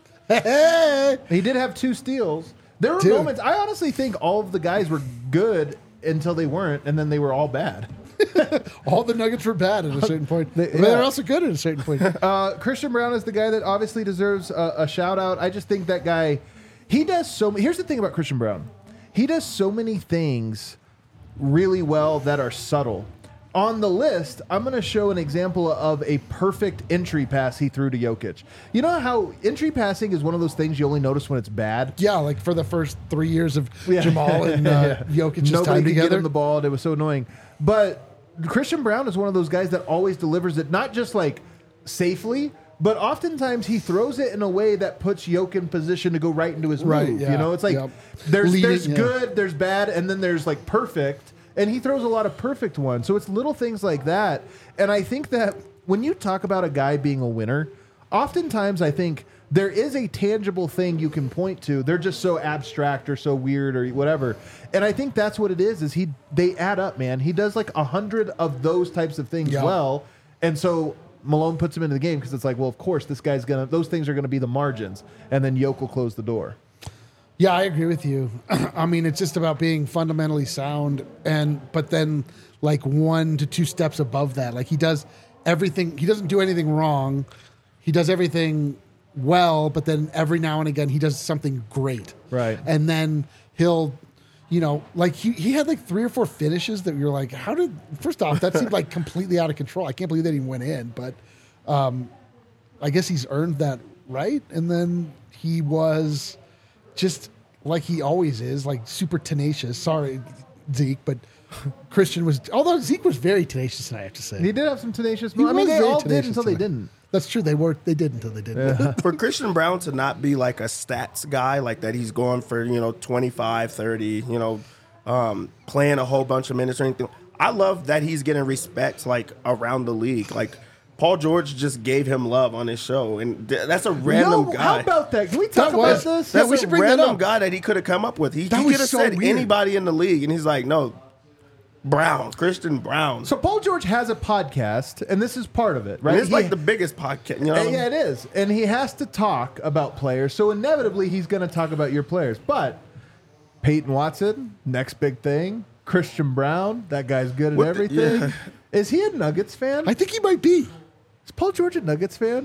Speaker 2: He did have 2 steals. There were moments, I honestly think all of the guys were good until they weren't, and then they were all bad.
Speaker 1: All the Nuggets were bad at a certain point. They're also good at a certain point.
Speaker 2: Christian Brown is the guy that obviously deserves a shout out. I just think that guy, he does so many. Here's the thing about Christian Brown. He does so many things really well that are subtle. On the list, I'm going to show an example of a perfect entry pass he threw to Jokic. You know how entry passing is one of those things you only notice when it's bad?
Speaker 1: Yeah, like for the first 3 years of Jamal and Jokic's
Speaker 2: Nobody
Speaker 1: time
Speaker 2: could
Speaker 1: together.
Speaker 2: get him the ball, and it was so annoying. But Christian Brown is one of those guys that always delivers it, not just like safely, but oftentimes he throws it in a way that puts Jokic in position to go right into his move.
Speaker 1: Yeah,
Speaker 2: It's like there's good, there's bad, and then there's like perfect. And he throws a lot of perfect ones. So it's little things like that. And I think that when you talk about a guy being a winner, oftentimes I think there is a tangible thing you can point to. They're just so abstract or so weird or whatever. And I think that's what it is they add up, man. He does like 100 of those types of things well. And so Malone puts him into the game because it's like, well, of course, those things are going to be the margins. And then Jokic will close the door.
Speaker 1: Yeah, I agree with you. I mean, it's just about being fundamentally sound, but then like 1 to 2 steps above that. Like he does everything. He doesn't do anything wrong. He does everything well, but then every now and again he does something great.
Speaker 2: Right.
Speaker 1: And then he'll, like he had like 3 or 4 finishes that you're like, first off, that seemed like completely out of control. I can't believe that he went in, but I guess he's earned that right. And then he was just like he always is, like super tenacious. Sorry, Zeke, but Christian was. Although Zeke was very tenacious, I have to say.
Speaker 2: He did have some tenacious.
Speaker 1: He
Speaker 2: I mean,
Speaker 1: was
Speaker 2: they
Speaker 1: very
Speaker 2: all did
Speaker 1: tenacious
Speaker 2: until they
Speaker 1: tonight.
Speaker 2: didn't.
Speaker 1: That's true. They did until they didn't.
Speaker 3: For Christian Brown to not be like a stats guy, like that he's going for, 25, 30, playing a whole bunch of minutes or anything. I love that he's getting respect like around the league. Like Paul George just gave him love on his show, and that's a random guy.
Speaker 2: How about that? Can we talk about this?
Speaker 1: Yeah,
Speaker 3: That's
Speaker 1: we should
Speaker 3: a
Speaker 1: bring that
Speaker 3: random
Speaker 1: up.
Speaker 3: guy that he could have come up with. He
Speaker 1: That
Speaker 3: could
Speaker 1: was
Speaker 3: have
Speaker 1: so
Speaker 3: said
Speaker 1: weird.
Speaker 3: anybody in the league, and he's like, no, Christian Brown.
Speaker 2: So Paul George has a podcast, and this is part of it, right?
Speaker 3: And it's like the biggest podcast.
Speaker 2: Yeah, it is. And he has to talk about players, so inevitably he's going to talk about your players. But Peyton Watson, next big thing. Christian Brown, that guy's good at everything. Is he a Nuggets fan?
Speaker 1: I think he might be.
Speaker 2: Is Paul George a Nuggets fan?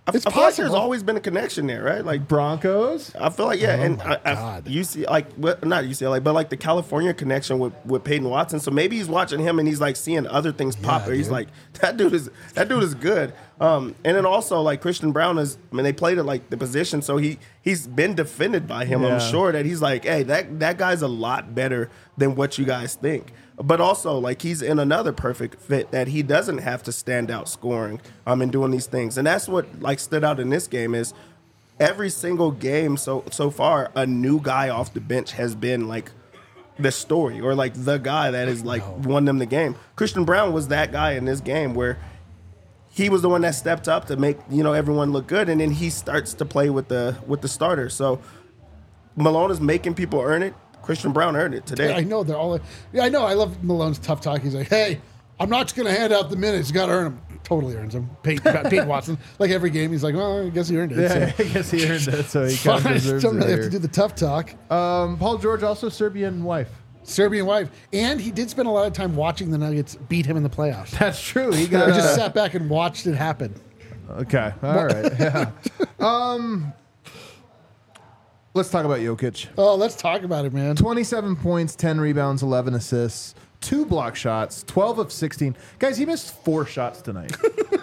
Speaker 3: I
Speaker 1: It's
Speaker 3: feel like there's
Speaker 1: possible.
Speaker 3: always been a connection there, right? Like
Speaker 2: Broncos.
Speaker 3: I feel like and
Speaker 1: God.
Speaker 3: UC not UCLA, but like the California connection with Peyton Watson. So maybe he's watching him and he's like seeing other things pop. Or he's
Speaker 1: dude.
Speaker 3: like, that dude is good. And then also like Christian Brown they played at like the position, so he's been defended by him.
Speaker 2: Yeah.
Speaker 3: I'm sure that he's like, hey, that guy's a lot better than what you guys think. But also, like, he's in another perfect fit that he doesn't have to stand out scoring and doing these things. And that's what, like, stood out in this game is every single game so far, a new guy off the bench has been, like, the story or, like, the guy that has, like, won them the game. Christian Brown was that guy in this game where he was the one that stepped up to make, everyone look good. And then he starts to play with the starters. So Malone is making people earn it. Christian Brown earned it today.
Speaker 1: I know they're all. Yeah, I know. I love Malone's tough talk. He's like, "Hey, I'm not just going to hand out the minutes. You got to earn them." Totally earns them. Peyton Watson, like every game, he's like, "Well, I guess he earned it."
Speaker 2: Yeah,
Speaker 1: So.
Speaker 2: I guess he earned it, so he kind of
Speaker 1: Fine,
Speaker 2: deserves
Speaker 1: don't
Speaker 2: it
Speaker 1: really have
Speaker 2: here.
Speaker 1: to do the tough talk.
Speaker 2: Paul George, also Serbian wife.
Speaker 1: Serbian wife, and he did spend a lot of time watching the Nuggets beat him in the playoffs.
Speaker 2: That's true. He
Speaker 1: I
Speaker 2: got
Speaker 1: just sat back and watched it happen.
Speaker 2: Okay. All right. Yeah. Let's talk about Jokic.
Speaker 1: Oh, let's talk about it, man.
Speaker 2: 27 points, 10 rebounds, 11 assists, 2 block shots, 12 of 16. Guys, he missed 4 shots tonight.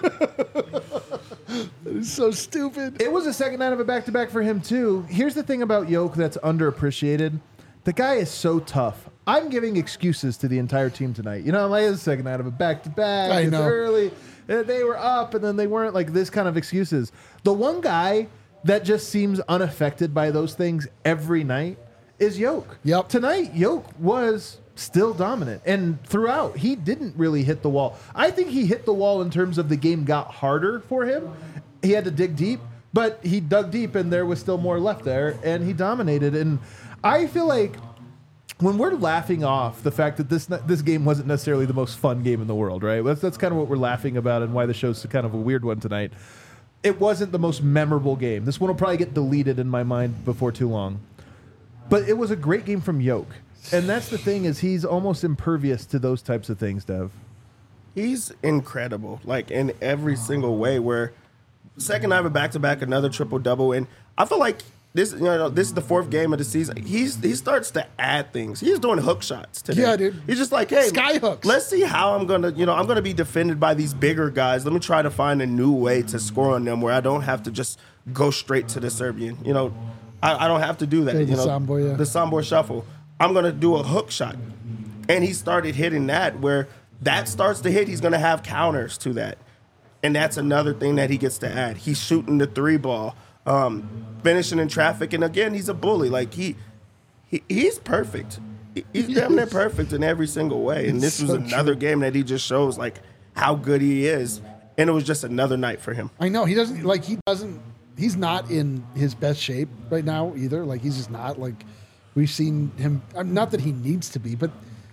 Speaker 1: It's so stupid.
Speaker 2: It was a second night of a back-to-back for him, too. Here's the thing about Jokic that's underappreciated. The guy is so tough. I'm giving excuses to the entire team tonight. Like it's the second night of a back-to-back.
Speaker 1: I
Speaker 2: It's
Speaker 1: know.
Speaker 2: early. They were up, and then they weren't, like this kind of excuses. The one guy that just seems unaffected by those things every night is Jokic.
Speaker 1: Yep.
Speaker 2: Tonight, Jokic was still dominant. And throughout, he didn't really hit the wall. I think he hit the wall in terms of the game got harder for him. He had to dig deep, but he dug deep and there was still more left there, and he dominated. And I feel like when we're laughing off the fact that this game wasn't necessarily the most fun game in the world, right? That's kind of what we're laughing about and why the show's kind of a weird one tonight. It wasn't the most memorable game. This one will probably get deleted in my mind before too long. But it was a great game from Jokic. And that's the thing is he's almost impervious to those types of things, Dev.
Speaker 3: He's incredible, like in every single way. Where second night of a back-to-back, another triple-double, and I feel like this is the 4th game of the season. He starts to add things. He's doing hook shots today.
Speaker 1: Yeah, dude.
Speaker 3: He's just like, hey,
Speaker 1: Sky hooks.
Speaker 3: let's see how I'm gonna be defended by these bigger guys. Let me try to find a new way to score on them where I don't have to just go straight to the Serbian. I don't have to do that.
Speaker 1: The Sombor, yeah.
Speaker 3: The Sombor shuffle. I'm gonna do a hook shot, and he started hitting that. Where that starts to hit, he's gonna have counters to that, and that's another thing that he gets to add. He's shooting the 3-ball. Finishing in traffic, and again, he's a bully. Like he's perfect. He's damn near perfect in every single way. And this was
Speaker 1: so
Speaker 3: another game that he just shows like how good he is. And it was just another night for him.
Speaker 1: I know he's not in his best shape right now either. Like he's just not. Like we've seen him. Not that he needs to be, but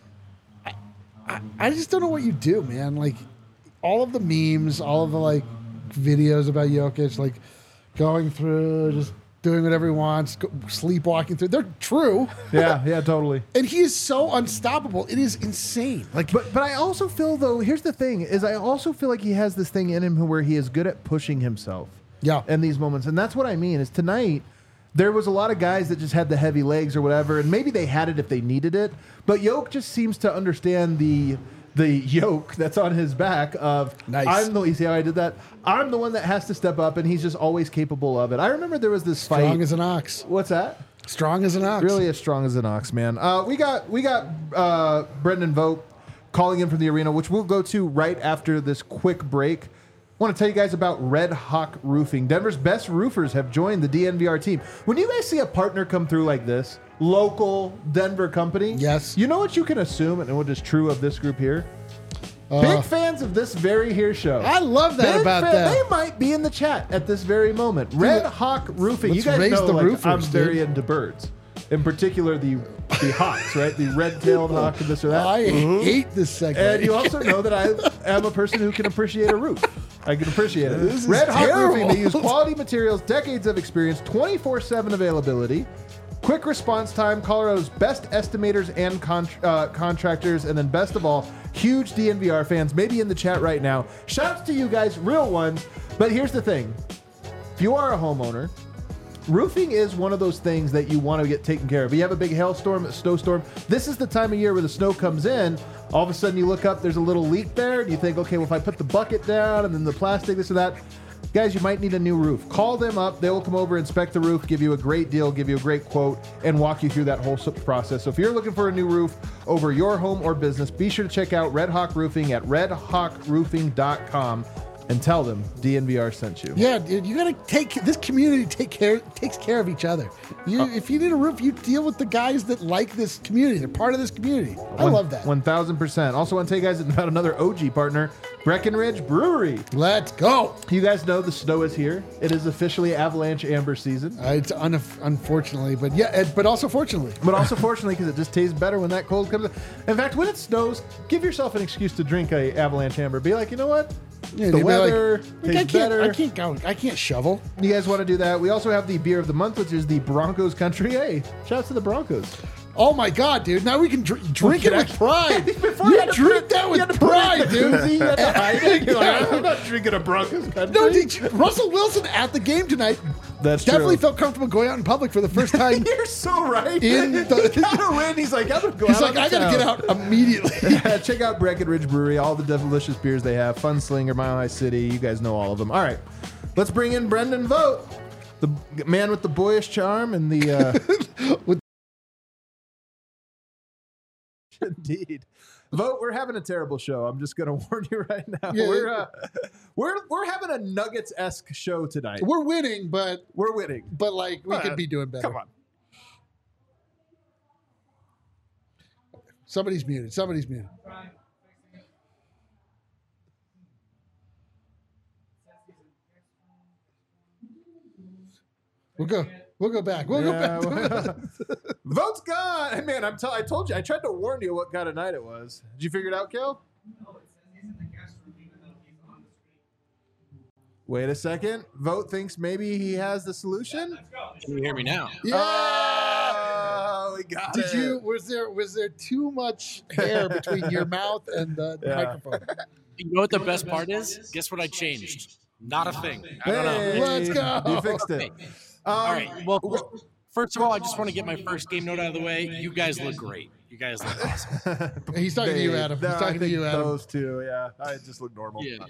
Speaker 1: I just don't know what you do, man. Like all of the memes, all of the like videos about Jokic, like going through, just doing whatever he wants, sleepwalking through. They're true.
Speaker 2: Yeah, totally.
Speaker 1: And he is so unstoppable. It is insane. Like,
Speaker 2: But I also feel, though, here's the thing, is I also feel like he has this thing in him where he is good at pushing himself.
Speaker 1: Yeah.
Speaker 2: In these moments. And that's what I mean, is tonight, there was a lot of guys that just had the heavy legs or whatever, and maybe they had it if they needed it. But Jokic just seems to understand the yoke that's on his back of
Speaker 1: Nice.
Speaker 2: you see how I did that? I'm the one that has to step up, and he's just always capable of it. I remember there was this fight.
Speaker 1: strong as an ox.
Speaker 2: What's that?
Speaker 1: Strong as an ox.
Speaker 2: Really as strong as an ox, man. We got Brendan Vogt calling in from the arena, which we'll go to right after this quick break. I want to tell you guys about Red Hawk Roofing. Denver's best roofers have joined the DNVR team. When you guys see a partner come through like this, local Denver company,
Speaker 1: Yes.
Speaker 2: you know what you can assume, and what is true of this group here? Big fans of this very here show.
Speaker 1: I love that about them.
Speaker 2: They might be in the chat at this very moment. Red Hawk Roofing.
Speaker 1: let's
Speaker 2: You guys
Speaker 1: raise
Speaker 2: know
Speaker 1: the
Speaker 2: like,
Speaker 1: roofers,
Speaker 2: I'm
Speaker 1: dude.
Speaker 2: very into birds. In particular, the hawks, right? The red-tailed hawk and this or that.
Speaker 1: I hate this segment.
Speaker 2: And you also know that I am a person who can appreciate a roof. I can appreciate it.
Speaker 1: This is
Speaker 2: Red Hawk
Speaker 1: terrible.
Speaker 2: Roofing, they use quality materials, decades of experience, 24/7 availability, quick response time, Colorado's best estimators and contractors, and then best of all, huge DNVR fans, maybe in the chat right now. Shouts to you guys, real ones. But here's the thing. If you are a homeowner, roofing is one of those things that you want to get taken care of. You have a big hailstorm, a snowstorm. This is the time of year where the snow comes in. All of a sudden you look up, there's a little leak there, and you think, okay, well, if I put the bucket down and then the plastic, this or that, guys, you might need a new roof. Call them up. They will come over, inspect the roof, give you a great deal, give you a great quote, and walk you through that whole process. So if you're looking for a new roof over your home or business, be sure to check out Red Hawk Roofing at redhawkroofing.com and tell them DNVR sent you.
Speaker 1: Yeah, dude, you gotta this community takes care of each other. If you need a roof, you deal with the guys that like this community. They're part of this community. I love that.
Speaker 2: 1,000%. Also want to tell you guys about another OG partner, Breckenridge Brewery.
Speaker 1: Let's go.
Speaker 2: You guys know the snow is here. It is officially Avalanche Amber season.
Speaker 1: It's unfortunately, but also fortunately.
Speaker 2: But also fortunately, because it just tastes better when that cold comes in. In fact, when it snows, give yourself an excuse to drink a Avalanche Amber. Be like, you know what?
Speaker 1: Yeah,
Speaker 2: the weather tastes better.
Speaker 1: I can't shovel.
Speaker 2: You guys want to do that? We also have the beer of the month, which is the Broncos Country. Hey, shouts to the Broncos.
Speaker 1: Oh my God, dude! Now we can drink it with pride.
Speaker 2: Before
Speaker 1: you drink that with pride, dude.
Speaker 2: You had to hide it. You're like, I'm not drinking a Broncos Country.
Speaker 1: No, Russell Wilson at the game tonight.
Speaker 2: That's
Speaker 1: definitely
Speaker 2: true.
Speaker 1: felt comfortable going out in public for the first time.
Speaker 2: You're so right.
Speaker 1: He
Speaker 2: got a win. He's like, I'm gonna go.
Speaker 1: He's like, I gotta get out immediately.
Speaker 2: Check out Breckenridge Brewery. All the delicious beers they have. Fun Slinger, Mile High City. You guys know all of them. All right, let's bring in Brendan Vogt, the man with the boyish charm and the. Indeed. Vogt, we're having a terrible show. I'm just going to warn you right now.
Speaker 1: Yeah.
Speaker 2: We're having a Nuggets-esque show tonight.
Speaker 1: We're winning, but like we could be doing better.
Speaker 2: Come on.
Speaker 1: Somebody's muted. We'll go back. We'll go back.
Speaker 2: Vogt's gone. Hey, man, I told you. I tried to warn you what kind of night it was. Did you figure it out, Kel?
Speaker 5: No, it says he's in the guest room even though he's on the street.
Speaker 2: Wait a second. Vogt thinks maybe he has the solution.
Speaker 5: Let's go.
Speaker 6: Can you hear me now?
Speaker 1: Yeah.
Speaker 2: Oh, we got it.
Speaker 1: Was there too much hair between your mouth and the microphone?
Speaker 6: You know what the best part is? Guess what I changed? Not a thing. I don't know.
Speaker 1: Let's go.
Speaker 2: You fixed it.
Speaker 6: All right. Well, first of all, I just want to get my first game note out of the way. You guys look great. You guys look awesome.
Speaker 1: He's talking to you, Adam. He's talking to you, Adam.
Speaker 2: Those two, yeah. I just look normal.
Speaker 6: Yeah.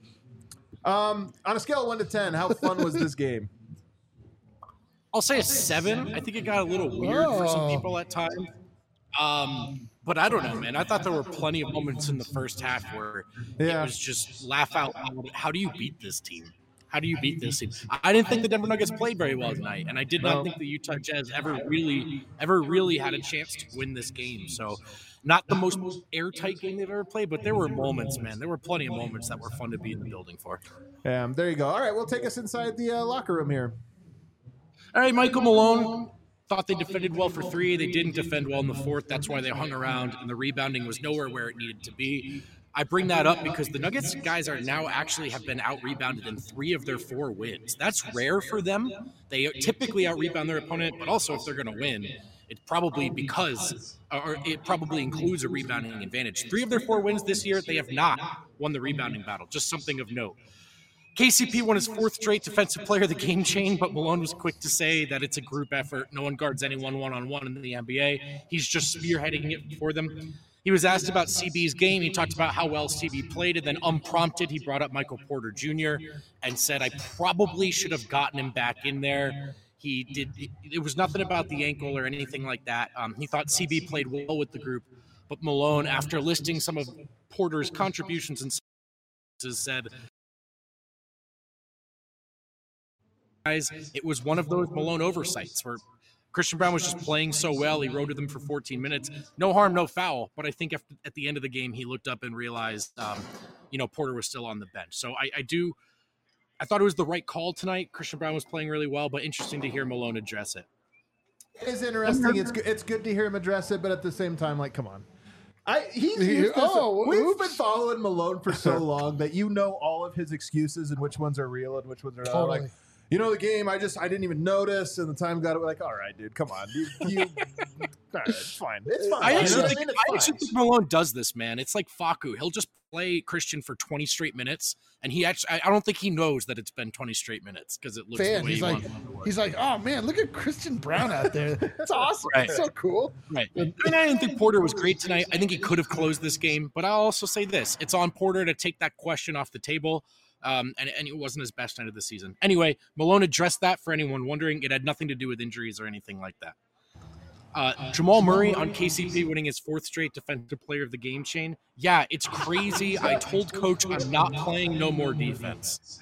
Speaker 2: On a scale of 1 to 10, how fun was this game?
Speaker 6: I'll say a 7. I think it got a little weird for some people at times. But I don't know, man. I thought there were plenty of moments in the first half where it was just laugh out loud. How do you beat this team? How do you beat this team? I didn't think the Denver Nuggets played very well tonight, and I did not think the Utah Jazz ever really had a chance to win this game. So, not the most airtight game they've ever played, but there were moments, man. There were plenty of moments that were fun to be in the building for.
Speaker 2: There you go. All right, we'll take us inside the locker room here.
Speaker 6: All right, Michael Malone. Thought they defended well for 3. They didn't defend well in the 4th. That's why they hung around, and the rebounding was nowhere where it needed to be. I bring that up because the Nuggets guys are now actually have been out-rebounded in 3 of their 4 wins. That's rare for them. They typically out-rebound their opponent, but also if they're going to win, it's probably it probably includes a rebounding advantage. 3 of their 4 wins this year, they have not won the rebounding battle. Just something of note. KCP won his 4th straight defensive player of the game chain, but Malone was quick to say that it's a group effort. No one guards anyone one-on-one in the NBA. He's just spearheading it for them. He was asked about CB's game. He talked about how well CB played, and then unprompted, he brought up Michael Porter Jr. and said, I probably should have gotten him back in there. He did. It was nothing about the ankle or anything like that. He thought CB played well with the group, but Malone, after listing some of Porter's contributions and said, it was one of those Malone oversights where Christian Braun was just playing so well. He rode with him for 14 minutes. No harm, no foul. But I think at the end of the game, he looked up and realized, Porter was still on the bench. So I thought it was the right call tonight. Christian Braun was playing really well, but interesting to hear Malone address it.
Speaker 2: It is interesting. It's good to hear him address it, but at the same time, like, come on. We've been following Malone for so long that you know all of his excuses and which ones are real and which ones are not.
Speaker 1: Totally.
Speaker 2: Like, the game, I didn't even notice, and the time got like, all right, dude, come on. You all right, it's fine. It's fine.
Speaker 6: I actually
Speaker 2: You know what
Speaker 6: think,
Speaker 2: mean? It's
Speaker 6: I
Speaker 2: fine.
Speaker 6: actually think Malone does this, man. It's like Facu. He'll just play Christian for 20 straight minutes, and I don't think he knows that it's been 20 straight minutes because it looks the way
Speaker 1: He's like, oh man, look at Christian Brown out there. It's awesome.
Speaker 6: Right.
Speaker 1: It's so cool.
Speaker 6: Right. I didn't think Porter was great tonight. I think he could have closed this game, but I'll also say this. It's on Porter to take that question off the table, and it wasn't his best night of the season. Anyway, Malone addressed that for anyone wondering. It had nothing to do with injuries or anything like that. Jamal Murray on KCP winning his 4th straight defensive player of the game chain. Yeah, it's crazy. I told coach I'm not playing no more defense,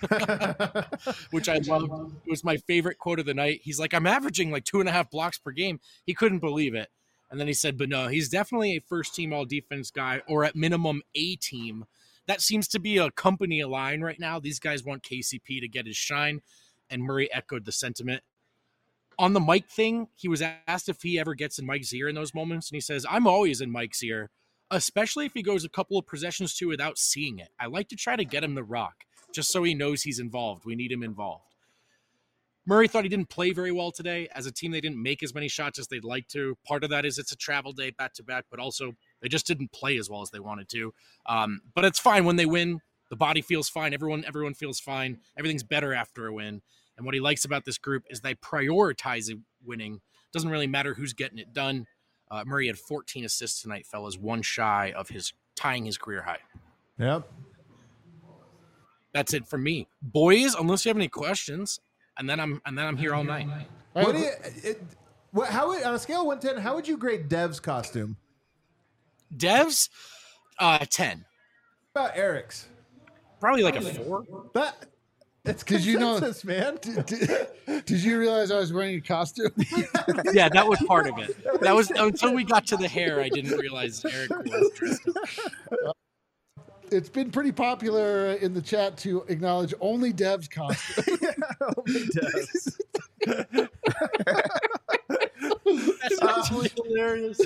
Speaker 6: which I loved. It was my favorite quote of the night. He's like, I'm averaging like 2.5 blocks per game. He couldn't believe it. And then he said, but no, he's definitely a first team all defense guy, or at minimum a team. That seems to be a company line right now. These guys want KCP to get his shine. And Murray echoed the sentiment. On the Mike thing, he was asked if he ever gets in Mike's ear in those moments, and he says, I'm always in Mike's ear, especially if he goes a couple of possessions too without seeing it. I like to try to get him the rock, just so he knows he's involved. We need him involved. Murray thought he didn't play very well today. As a team, they didn't make as many shots as they'd like to. Part of that is it's a travel day back-to-back, but also they just didn't play as well as they wanted to. But it's fine when they win. The body feels fine. Everyone feels fine. Everything's better after a win. And what he likes about this group is they prioritize winning. Doesn't really matter who's getting it done. Murray had 14 assists tonight, fellas, one shy of tying his career high.
Speaker 2: Yep.
Speaker 6: That's it from me, boys. Unless you have any questions, and then I'm here all night.
Speaker 2: What do you? How on a scale of 1 to 10? How would you grade Dev's costume?
Speaker 6: Devs, 10.
Speaker 2: What about Eric's?
Speaker 6: Probably like a 4.
Speaker 2: It's
Speaker 1: Did you know-
Speaker 2: consensus, man.
Speaker 1: Did you realize I was wearing a costume?
Speaker 6: Yeah, that was part of it. That was until we got to the hair. I didn't realize Eric was dressed up.
Speaker 1: It's been pretty popular in the chat to acknowledge only Dev's costume.
Speaker 2: Only Dev's.
Speaker 6: That's actually hilarious.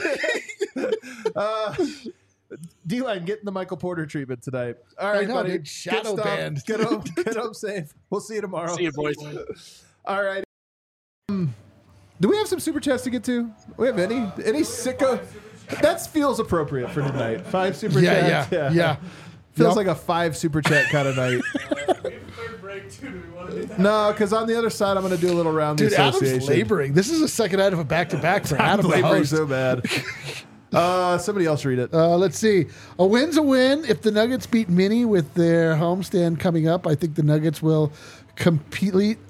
Speaker 2: D-Line getting the Michael Porter treatment tonight. All right,
Speaker 1: know,
Speaker 2: buddy.
Speaker 1: dude. Shadow
Speaker 2: Good stuff.
Speaker 1: banned.
Speaker 2: Get home safe. We'll see you tomorrow.
Speaker 6: See you, boys.
Speaker 2: All right. Do we have some super chats to get to? We have any sicko? That feels appropriate for tonight. 5 super chats.
Speaker 1: Yeah.
Speaker 2: Feels
Speaker 1: Yep.
Speaker 2: like a 5 super chat kind of night. No, because on the other side, I'm going to do a little round
Speaker 1: Dude,
Speaker 2: the association.
Speaker 1: Adam's laboring. This is a second out of a back-to-back for
Speaker 2: I'm
Speaker 1: Adam to
Speaker 2: laboring
Speaker 1: host.
Speaker 2: so bad. Somebody else read it.
Speaker 1: Let's see. A win's a win. If the Nuggets beat Minnie with their homestand coming up, I think the Nuggets will complete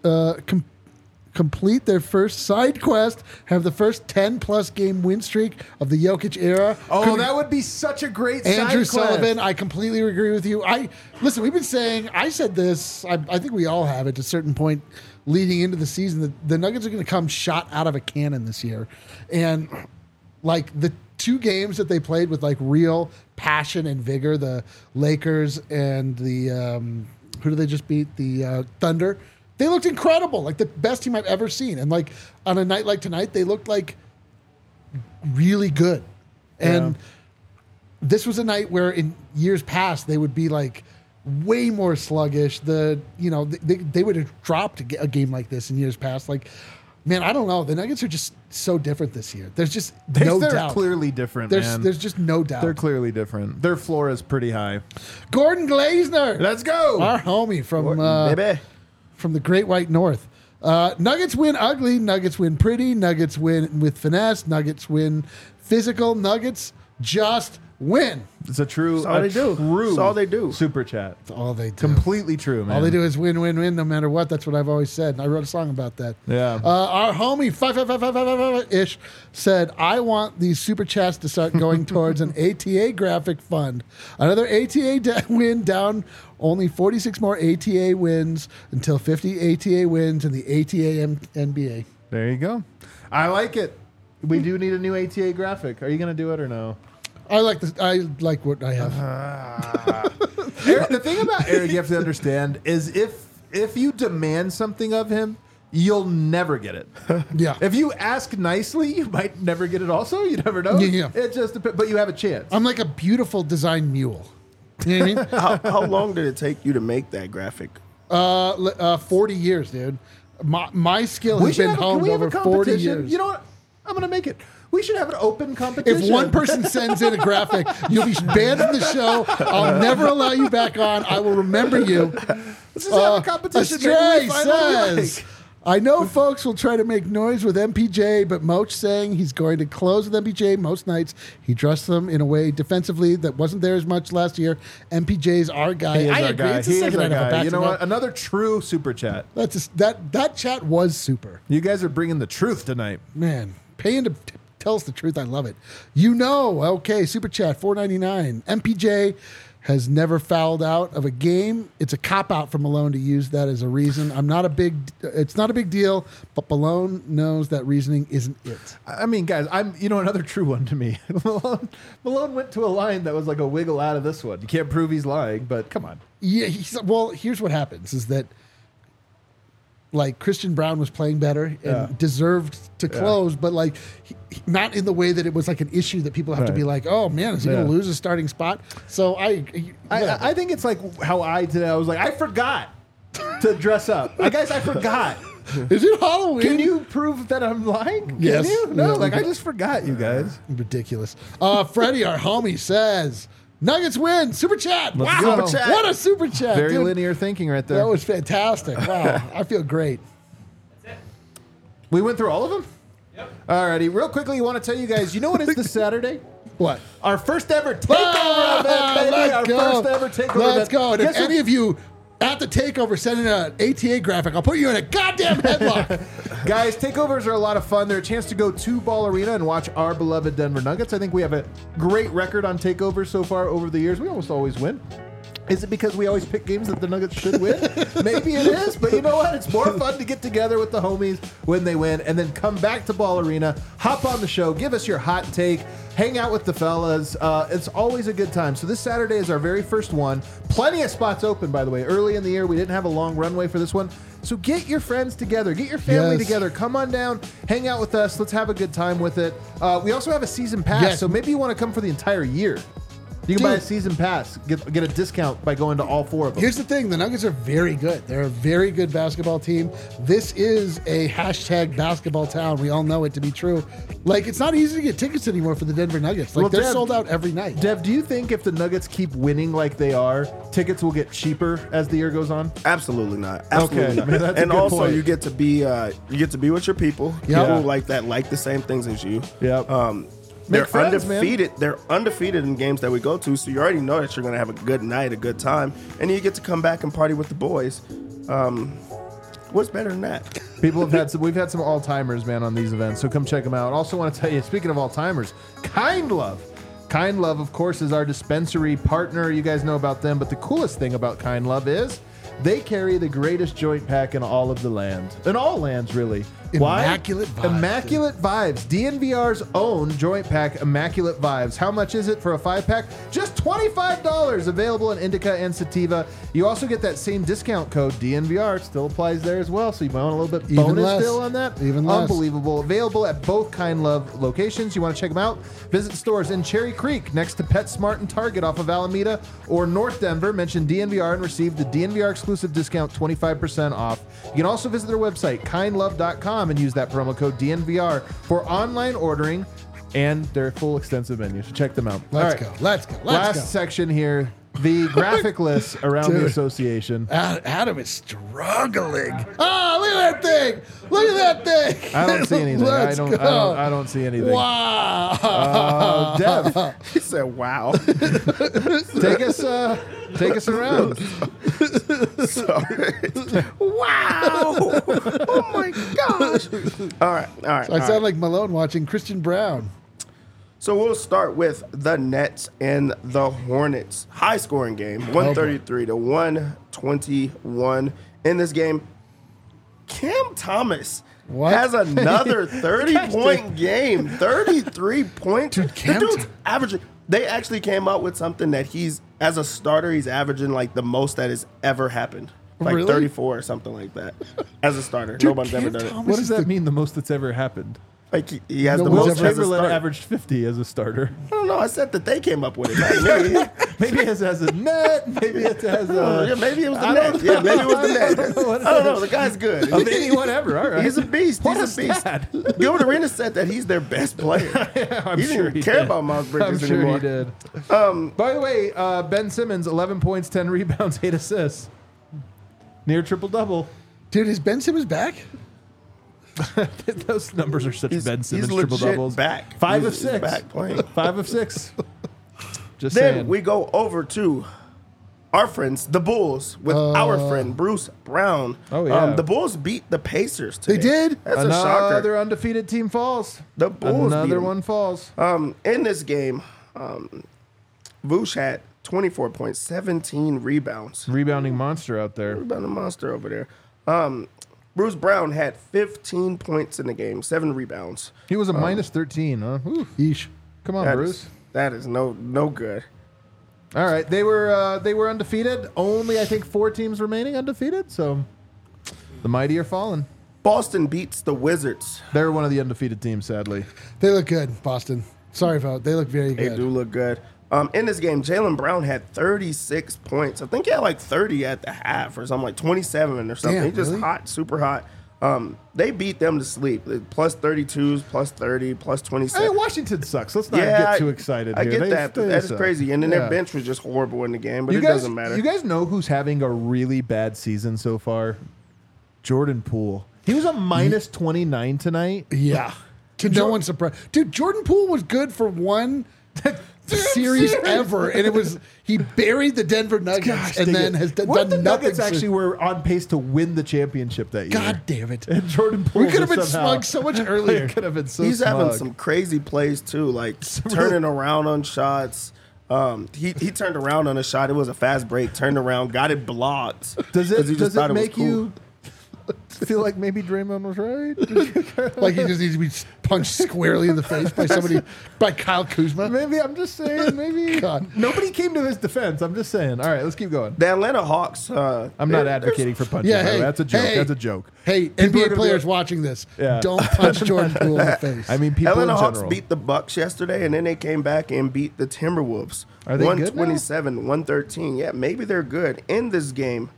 Speaker 1: their first side quest, have the first 10-plus game win streak of the Jokic era.
Speaker 2: Oh, that would be such a great
Speaker 1: Andrew
Speaker 2: side quest.
Speaker 1: Sullivan, I completely agree with you. Listen, we've been saying, I said this, I think we all have at a certain point leading into the season, that the Nuggets are going to come shot out of a cannon this year. And like the 2 games that they played with like real passion and vigor, the Lakers and the, who did they just beat? The Thunder. They looked incredible, like the best team I've ever seen. And like on a night like tonight, they looked like really good. And this was a night where in years past they would be like way more sluggish. They would have dropped a game like this in years past. Like, man, I don't know. The Nuggets are just so different this year. There's just no
Speaker 2: They're
Speaker 1: doubt.
Speaker 2: clearly different, man.
Speaker 1: There's just no doubt.
Speaker 2: They're clearly different. Their floor is pretty high.
Speaker 1: Gordon Glazner,
Speaker 2: Let's go.
Speaker 1: our homie from
Speaker 3: Baby.
Speaker 1: from the Great White North. Nuggets win ugly. Nuggets win pretty. Nuggets win with finesse. Nuggets win physical. Nuggets just win.
Speaker 2: It's a true.
Speaker 3: That's all they do.
Speaker 2: True
Speaker 3: That's all they do.
Speaker 2: Super chat.
Speaker 1: That's all they do.
Speaker 2: Completely true, man.
Speaker 1: All they do is win, win, win, no matter what. That's what I've always said. And I wrote a song about that.
Speaker 2: Yeah.
Speaker 1: Our homie, 55555-ish, said, I want these super chats to start going towards an ATA graphic fund. Another ATA win down, only 46 more ATA wins until 50 ATA wins in the ATA NBA.
Speaker 2: There you go. I like it. We do need a new ATA graphic. Are you going to do it or no?
Speaker 1: I like this. I like what I have.
Speaker 2: Eric, the thing about Eric you have to understand is if you demand something of him, you'll never get it.
Speaker 1: Yeah.
Speaker 2: If you ask nicely, you might never get it also. You never know.
Speaker 1: Yeah.
Speaker 2: It just depends, but you have a chance.
Speaker 1: I'm like a beautiful design mule. You know what I mean?
Speaker 3: How long did it take you to make that graphic?
Speaker 1: 40 years, dude. My skill has been honed over 40 years.
Speaker 2: You know what? I'm going to make it. We should have an open competition.
Speaker 1: If one person sends in a graphic, you'll be banned from the show. I'll never allow you back on. I will remember you.
Speaker 2: Let's just have a competition.
Speaker 1: Astray says, I know folks will try to make noise with MPJ, but Moch saying he's going to close with MPJ most nights. He trusts them in a way defensively that wasn't there as much last year. MPJ's our guy.
Speaker 2: He is
Speaker 1: I
Speaker 2: our
Speaker 1: agree.
Speaker 2: guy.
Speaker 1: It's the
Speaker 2: He is
Speaker 1: second
Speaker 2: our
Speaker 1: night of a
Speaker 2: guy. You know
Speaker 1: back-to-back.
Speaker 2: what? Another true super chat.
Speaker 1: That chat was super.
Speaker 2: You guys are bringing the truth tonight.
Speaker 1: Man, paying to tell us the truth. I love it. Okay, super chat, $4.99. MPJ has never fouled out of a game. It's a cop-out for Malone to use that as a reason. It's not a big deal, but Malone knows that reasoning isn't it.
Speaker 2: I mean, guys, another true one to me. Malone went to a line that was like a wiggle out of this one. You can't prove he's lying, but come on.
Speaker 1: Yeah, here's what happens is that like Christian Brown was playing better and deserved to close, but like not in the way that it was like an issue that people have to be like, oh man, is he going to lose his starting spot? So I
Speaker 2: think it's like how I did. I was like, I forgot to dress up. Guys, I forgot.
Speaker 1: Is it Halloween?
Speaker 2: Can you prove that I'm lying?
Speaker 1: Yes.
Speaker 2: Can you? No,
Speaker 1: Yeah.
Speaker 2: I just forgot, you guys.
Speaker 1: Ridiculous. Freddie, our homie, says Nuggets win. Super chat.
Speaker 2: Let's
Speaker 1: Wow.
Speaker 2: go.
Speaker 1: Super chat. What a super chat.
Speaker 2: Very
Speaker 1: dude.
Speaker 2: linear thinking right there.
Speaker 1: That was fantastic. Wow. I feel great.
Speaker 2: We went through all of them? Yep. Alrighty. Real quickly, you want to tell you guys, you know what is this Saturday?
Speaker 1: What?
Speaker 2: Our first ever takeover event, baby.
Speaker 1: Let's go.
Speaker 2: First ever takeover event.
Speaker 1: Let's go. And if
Speaker 2: Guess what-
Speaker 1: any of you at the takeover send in an ATA graphic, I'll put you in a goddamn headlock.
Speaker 2: Guys, takeovers are a lot of fun. They're a chance to go to Ball Arena and watch our beloved Denver Nuggets. I think we have a great record on takeovers so far over the years. We almost always win. Is it because we always pick games that the Nuggets should win? Maybe it is, but you know what? It's more fun to get together with the homies when they win and then come back to Ball Arena, hop on the show, give us your hot take, hang out with the fellas. It's always a good time. So this Saturday is our very first one. Plenty of spots open, by the way. Early in the year, we didn't have a long runway for this one. So get your friends together. Get your family
Speaker 1: Yes.
Speaker 2: together. Come on down. Hang out with us. Let's have a good time with it. We also have a season pass,
Speaker 1: Yes.
Speaker 2: so maybe you want to come for the entire year. You can buy a
Speaker 1: Dude.
Speaker 2: season pass, get a discount by going to all four of them.
Speaker 1: Here's the thing. The Nuggets are very good. They're a very good basketball team. This is a hashtag basketball town. We all know it to be true. Like, it's not easy to get tickets anymore for the Denver Nuggets. Like,
Speaker 2: Well,
Speaker 1: they're
Speaker 2: Dev-
Speaker 1: sold out every night.
Speaker 2: Dev, do you think if the Nuggets keep winning like they are, tickets will get cheaper as the year goes on?
Speaker 3: Absolutely not. Absolutely
Speaker 2: Okay,
Speaker 3: not.
Speaker 2: man, that's a
Speaker 3: And
Speaker 2: good
Speaker 3: also,
Speaker 2: point.
Speaker 3: you get to be with your people.
Speaker 1: Yeah.
Speaker 3: People like that, like the same things as you.
Speaker 2: Yep.
Speaker 3: They're
Speaker 2: Make friends, man.
Speaker 3: undefeated. They're undefeated in games that we go to, so you already know that you're going to have a good night, a good time, and you get to come back and party with the boys. What's better than that?
Speaker 2: We've had some all-timers, man, on these events, so come check them out. Also want to tell you, speaking of all-timers, Kind Love. Kind Love, of course, is our dispensary partner. You guys know about them, but the coolest thing about Kind Love is they carry the greatest joint pack in all of the land. In all lands, really.
Speaker 1: Immaculate
Speaker 2: Why?
Speaker 1: Vibes.
Speaker 2: Immaculate Vibes. DNVR's own joint pack, Immaculate Vibes. How much is it for a 5-pack? Just $25. Available in indica and sativa. You also get that same discount code, DNVR. It still applies there as well, so you might want a little bit
Speaker 1: Even
Speaker 2: bonus
Speaker 1: less.
Speaker 2: still on that.
Speaker 1: Even less.
Speaker 2: Unbelievable. Available at both Kind Love locations. You want to check them out? Visit stores in Cherry Creek next to PetSmart and Target off of Alameda, or North Denver. Mention DNVR and receive the DNVR exclusive discount 25% off. You can also visit their website, kindlove.com, and use that promo code DNVR for online ordering and their full extensive menu. So check them out.
Speaker 1: Let's
Speaker 2: All right.
Speaker 1: go. Let's go. Let's
Speaker 2: Last
Speaker 1: go.
Speaker 2: section here. The graphic list around the
Speaker 1: Dude.
Speaker 2: association.
Speaker 1: Adam is struggling. Oh, look at that thing! Look at that thing!
Speaker 2: I don't see anything. I
Speaker 1: Let's
Speaker 2: don't.
Speaker 1: go.
Speaker 2: I don't see anything.
Speaker 1: Wow.
Speaker 2: Dev,
Speaker 3: He said, "Wow."
Speaker 2: take us around.
Speaker 3: Sorry. Wow. Oh my gosh. All right.
Speaker 1: I sound like Malone watching Christian Brown.
Speaker 3: So we'll start with the Nets and the Hornets. High scoring game, 133 to 121. In this game, Cam Thomas
Speaker 1: What?
Speaker 3: has another 30-point game. 33 points.
Speaker 1: Dude, Cam
Speaker 3: the dude's averaging. They actually came out with something that as a starter, he's averaging like the most that has ever happened. Like
Speaker 1: Really?
Speaker 3: 34 or something like that. As a starter. Nobody's ever done it.
Speaker 2: What does that mean? The most that's ever happened.
Speaker 3: Like he has
Speaker 1: No
Speaker 3: the
Speaker 1: one's
Speaker 3: most
Speaker 1: ever-
Speaker 3: as a
Speaker 2: Chamberlain
Speaker 3: starter.
Speaker 2: averaged 50 as a starter.
Speaker 3: I don't know. I said that they came up with it. Not me.
Speaker 2: Maybe it has a net. Maybe it has
Speaker 3: Yeah,
Speaker 2: a.
Speaker 3: maybe it was the net. Yeah, maybe it was the net. I don't know. The guy's good.
Speaker 2: Of anyone ever. All right.
Speaker 3: He's a beast.
Speaker 2: What
Speaker 3: He's a beast.
Speaker 2: stat.
Speaker 3: Gilbert Arenas said that he's their best player.
Speaker 2: I'm
Speaker 3: He
Speaker 2: sure
Speaker 3: didn't
Speaker 2: he
Speaker 3: care
Speaker 2: did.
Speaker 3: about Miles
Speaker 2: I'm
Speaker 3: Bridges
Speaker 2: sure
Speaker 3: anymore.
Speaker 2: he did. By the way, Ben Simmons, 11 points, 10 rebounds, 8 assists. Near triple-double.
Speaker 1: Dude, is Ben Simmons back?
Speaker 2: Those numbers are such Ben Simmons
Speaker 3: He's legit
Speaker 2: triple-doubles.
Speaker 3: back.
Speaker 2: 5
Speaker 3: He's
Speaker 2: of 6.
Speaker 3: back playing.
Speaker 2: 5 of 6. Just
Speaker 3: Then
Speaker 2: saying.
Speaker 3: we go over to our friends, the Bulls, with our friend Bruce Brown.
Speaker 2: Oh, yeah.
Speaker 3: The Bulls beat the Pacers today.
Speaker 1: They did?
Speaker 3: That's a shocker.
Speaker 2: Another undefeated team falls.
Speaker 3: The Bulls beat
Speaker 2: Another
Speaker 3: 'em.
Speaker 2: one falls.
Speaker 3: In this game, Vooch had 24 points, 17 rebounds.
Speaker 2: Rebounding monster out there.
Speaker 3: About a monster over there. Bruce Brown had 15 points in the game, 7 rebounds.
Speaker 2: He was a minus 13, huh? Whew.
Speaker 1: Yeesh.
Speaker 2: Come on,
Speaker 3: That
Speaker 2: Bruce.
Speaker 3: that is no good.
Speaker 2: All right, they were undefeated. Only I think 4 teams remaining undefeated. So the mighty are falling.
Speaker 3: Boston beats the Wizards.
Speaker 2: They're one of the undefeated teams, sadly.
Speaker 1: They look good, Boston. Sorry, Vo. They look very
Speaker 3: They
Speaker 1: good.
Speaker 3: do look good. In this game, Jaylen Brown had 36 points. I think he had like 30 at the half or something, like 27 or something.
Speaker 1: Damn,
Speaker 3: He's just
Speaker 1: really?
Speaker 3: hot, super hot. They beat them to sleep. Plus 32s, plus 30, plus 27.
Speaker 2: I mean, Washington sucks. Let's not
Speaker 3: Yeah,
Speaker 2: get too excited
Speaker 3: I
Speaker 2: here.
Speaker 3: get
Speaker 2: They-
Speaker 3: that.
Speaker 2: they
Speaker 3: That is
Speaker 2: suck.
Speaker 3: crazy. And then
Speaker 2: Yeah.
Speaker 3: their bench was just horrible in the game, but
Speaker 2: You
Speaker 3: it
Speaker 2: guys,
Speaker 3: doesn't matter.
Speaker 2: You guys know who's having a really bad season so far? Jordan Poole. He was a minus 29 tonight.
Speaker 1: Yeah. To no one's surprise. Dude, Jordan Poole was good for one series ever. And it was, he buried the Denver Nuggets and then has done
Speaker 2: What if the
Speaker 1: nothing.
Speaker 2: Nuggets actually were on pace to win the championship that year?
Speaker 1: God damn it.
Speaker 2: And Jordan Poole
Speaker 1: We could have been
Speaker 2: was somehow-
Speaker 1: smug so much earlier.
Speaker 2: Could have been so
Speaker 3: He's
Speaker 2: smug.
Speaker 3: having some crazy plays too, like turning around on shots. He turned around on a shot. It was a fast break. Turned around, got it blocked.
Speaker 2: Does
Speaker 3: 'cause he
Speaker 2: it
Speaker 3: just thought was
Speaker 2: make
Speaker 3: cool.
Speaker 2: you feel like maybe Draymond was right?
Speaker 1: Like he just needs to be punched squarely in the face by somebody, by Kyle Kuzma.
Speaker 2: Maybe I'm just saying. Maybe
Speaker 1: God.
Speaker 2: nobody came to his defense. I'm just saying. All right, let's keep going.
Speaker 3: The Atlanta Hawks.
Speaker 2: I'm not advocating for punching.
Speaker 1: Yeah,
Speaker 2: by the way.
Speaker 1: hey,
Speaker 2: That's a joke.
Speaker 1: hey.
Speaker 2: That's a joke.
Speaker 1: Hey,
Speaker 2: People are
Speaker 1: NBA
Speaker 2: gonna
Speaker 1: players
Speaker 2: be-
Speaker 1: watching this,
Speaker 2: Yeah.
Speaker 1: don't punch Jordan Poole in the face.
Speaker 2: I mean, people
Speaker 3: Atlanta
Speaker 2: in
Speaker 3: Hawks
Speaker 2: general.
Speaker 3: beat the Bucks yesterday, and then they came back and beat the Timberwolves.
Speaker 2: Are they good now?
Speaker 3: 127-113. Yeah, maybe they're good. In this game,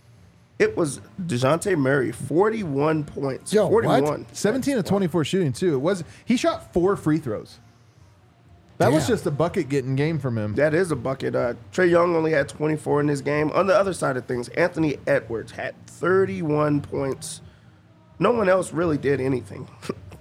Speaker 3: it was DeJounte Murray, 41 points.
Speaker 1: Yo, what?
Speaker 3: 41.
Speaker 2: 17 of 24 shooting too. It was he shot 4 free throws. That was
Speaker 1: Damn.
Speaker 2: just a bucket getting game from him.
Speaker 3: That is a bucket. Trey Young only had 24 in this game. On the other side of things, Anthony Edwards had 31 points. No one else really did anything.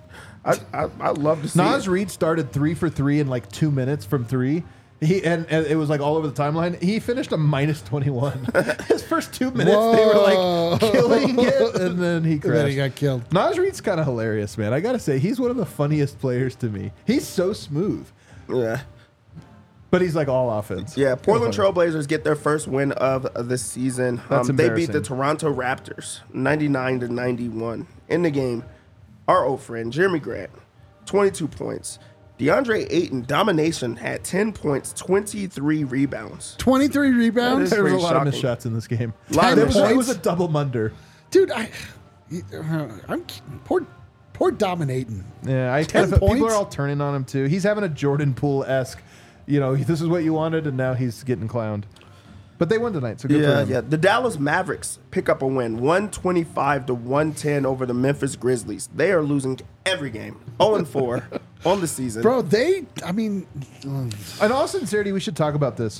Speaker 3: I love to see
Speaker 2: Naz
Speaker 3: it.
Speaker 2: Reid started 3 for 3 in like 2 minutes from 3. And it was like all over the timeline. He finished a minus 21. His first 2 minutes, they were like killing it, and then he
Speaker 1: And
Speaker 2: crashed.
Speaker 1: then he got killed.
Speaker 2: Naz Reid's kind of hilarious, man. I gotta say, he's one of the funniest players to me. He's so smooth,
Speaker 3: Yeah.
Speaker 2: but he's like all offense.
Speaker 3: Yeah, Portland
Speaker 2: Kinda funny.
Speaker 3: Trailblazers get their first win of the season.
Speaker 2: That's
Speaker 3: They beat the
Speaker 2: embarrassing.
Speaker 3: Toronto Raptors 99-91. In the game, our old friend Jeremy Grant, 22 points. DeAndre Ayton, domination, had 10 points, 23 rebounds.
Speaker 1: 23 rebounds.
Speaker 3: That
Speaker 2: There was a
Speaker 3: pretty
Speaker 2: lot of missed
Speaker 3: shocking.
Speaker 2: shots in this game.
Speaker 3: Lot of
Speaker 2: There
Speaker 3: missed
Speaker 2: was, it
Speaker 1: shots.
Speaker 2: was a double munder.
Speaker 1: Dude, I'm poor dominating.
Speaker 2: Yeah, I
Speaker 1: 10
Speaker 2: kind of, people
Speaker 1: points?
Speaker 2: are all turning on him too. He's having a Jordan Poole-esque, this is what you wanted, and now he's getting clowned. But they won tonight, so good for
Speaker 3: Yeah,
Speaker 2: them.
Speaker 3: yeah. The Dallas Mavericks pick up a win, 125-110 over the Memphis Grizzlies. They are losing every game, 0-4 on the season.
Speaker 1: Bro,
Speaker 2: In all sincerity, we should talk about this.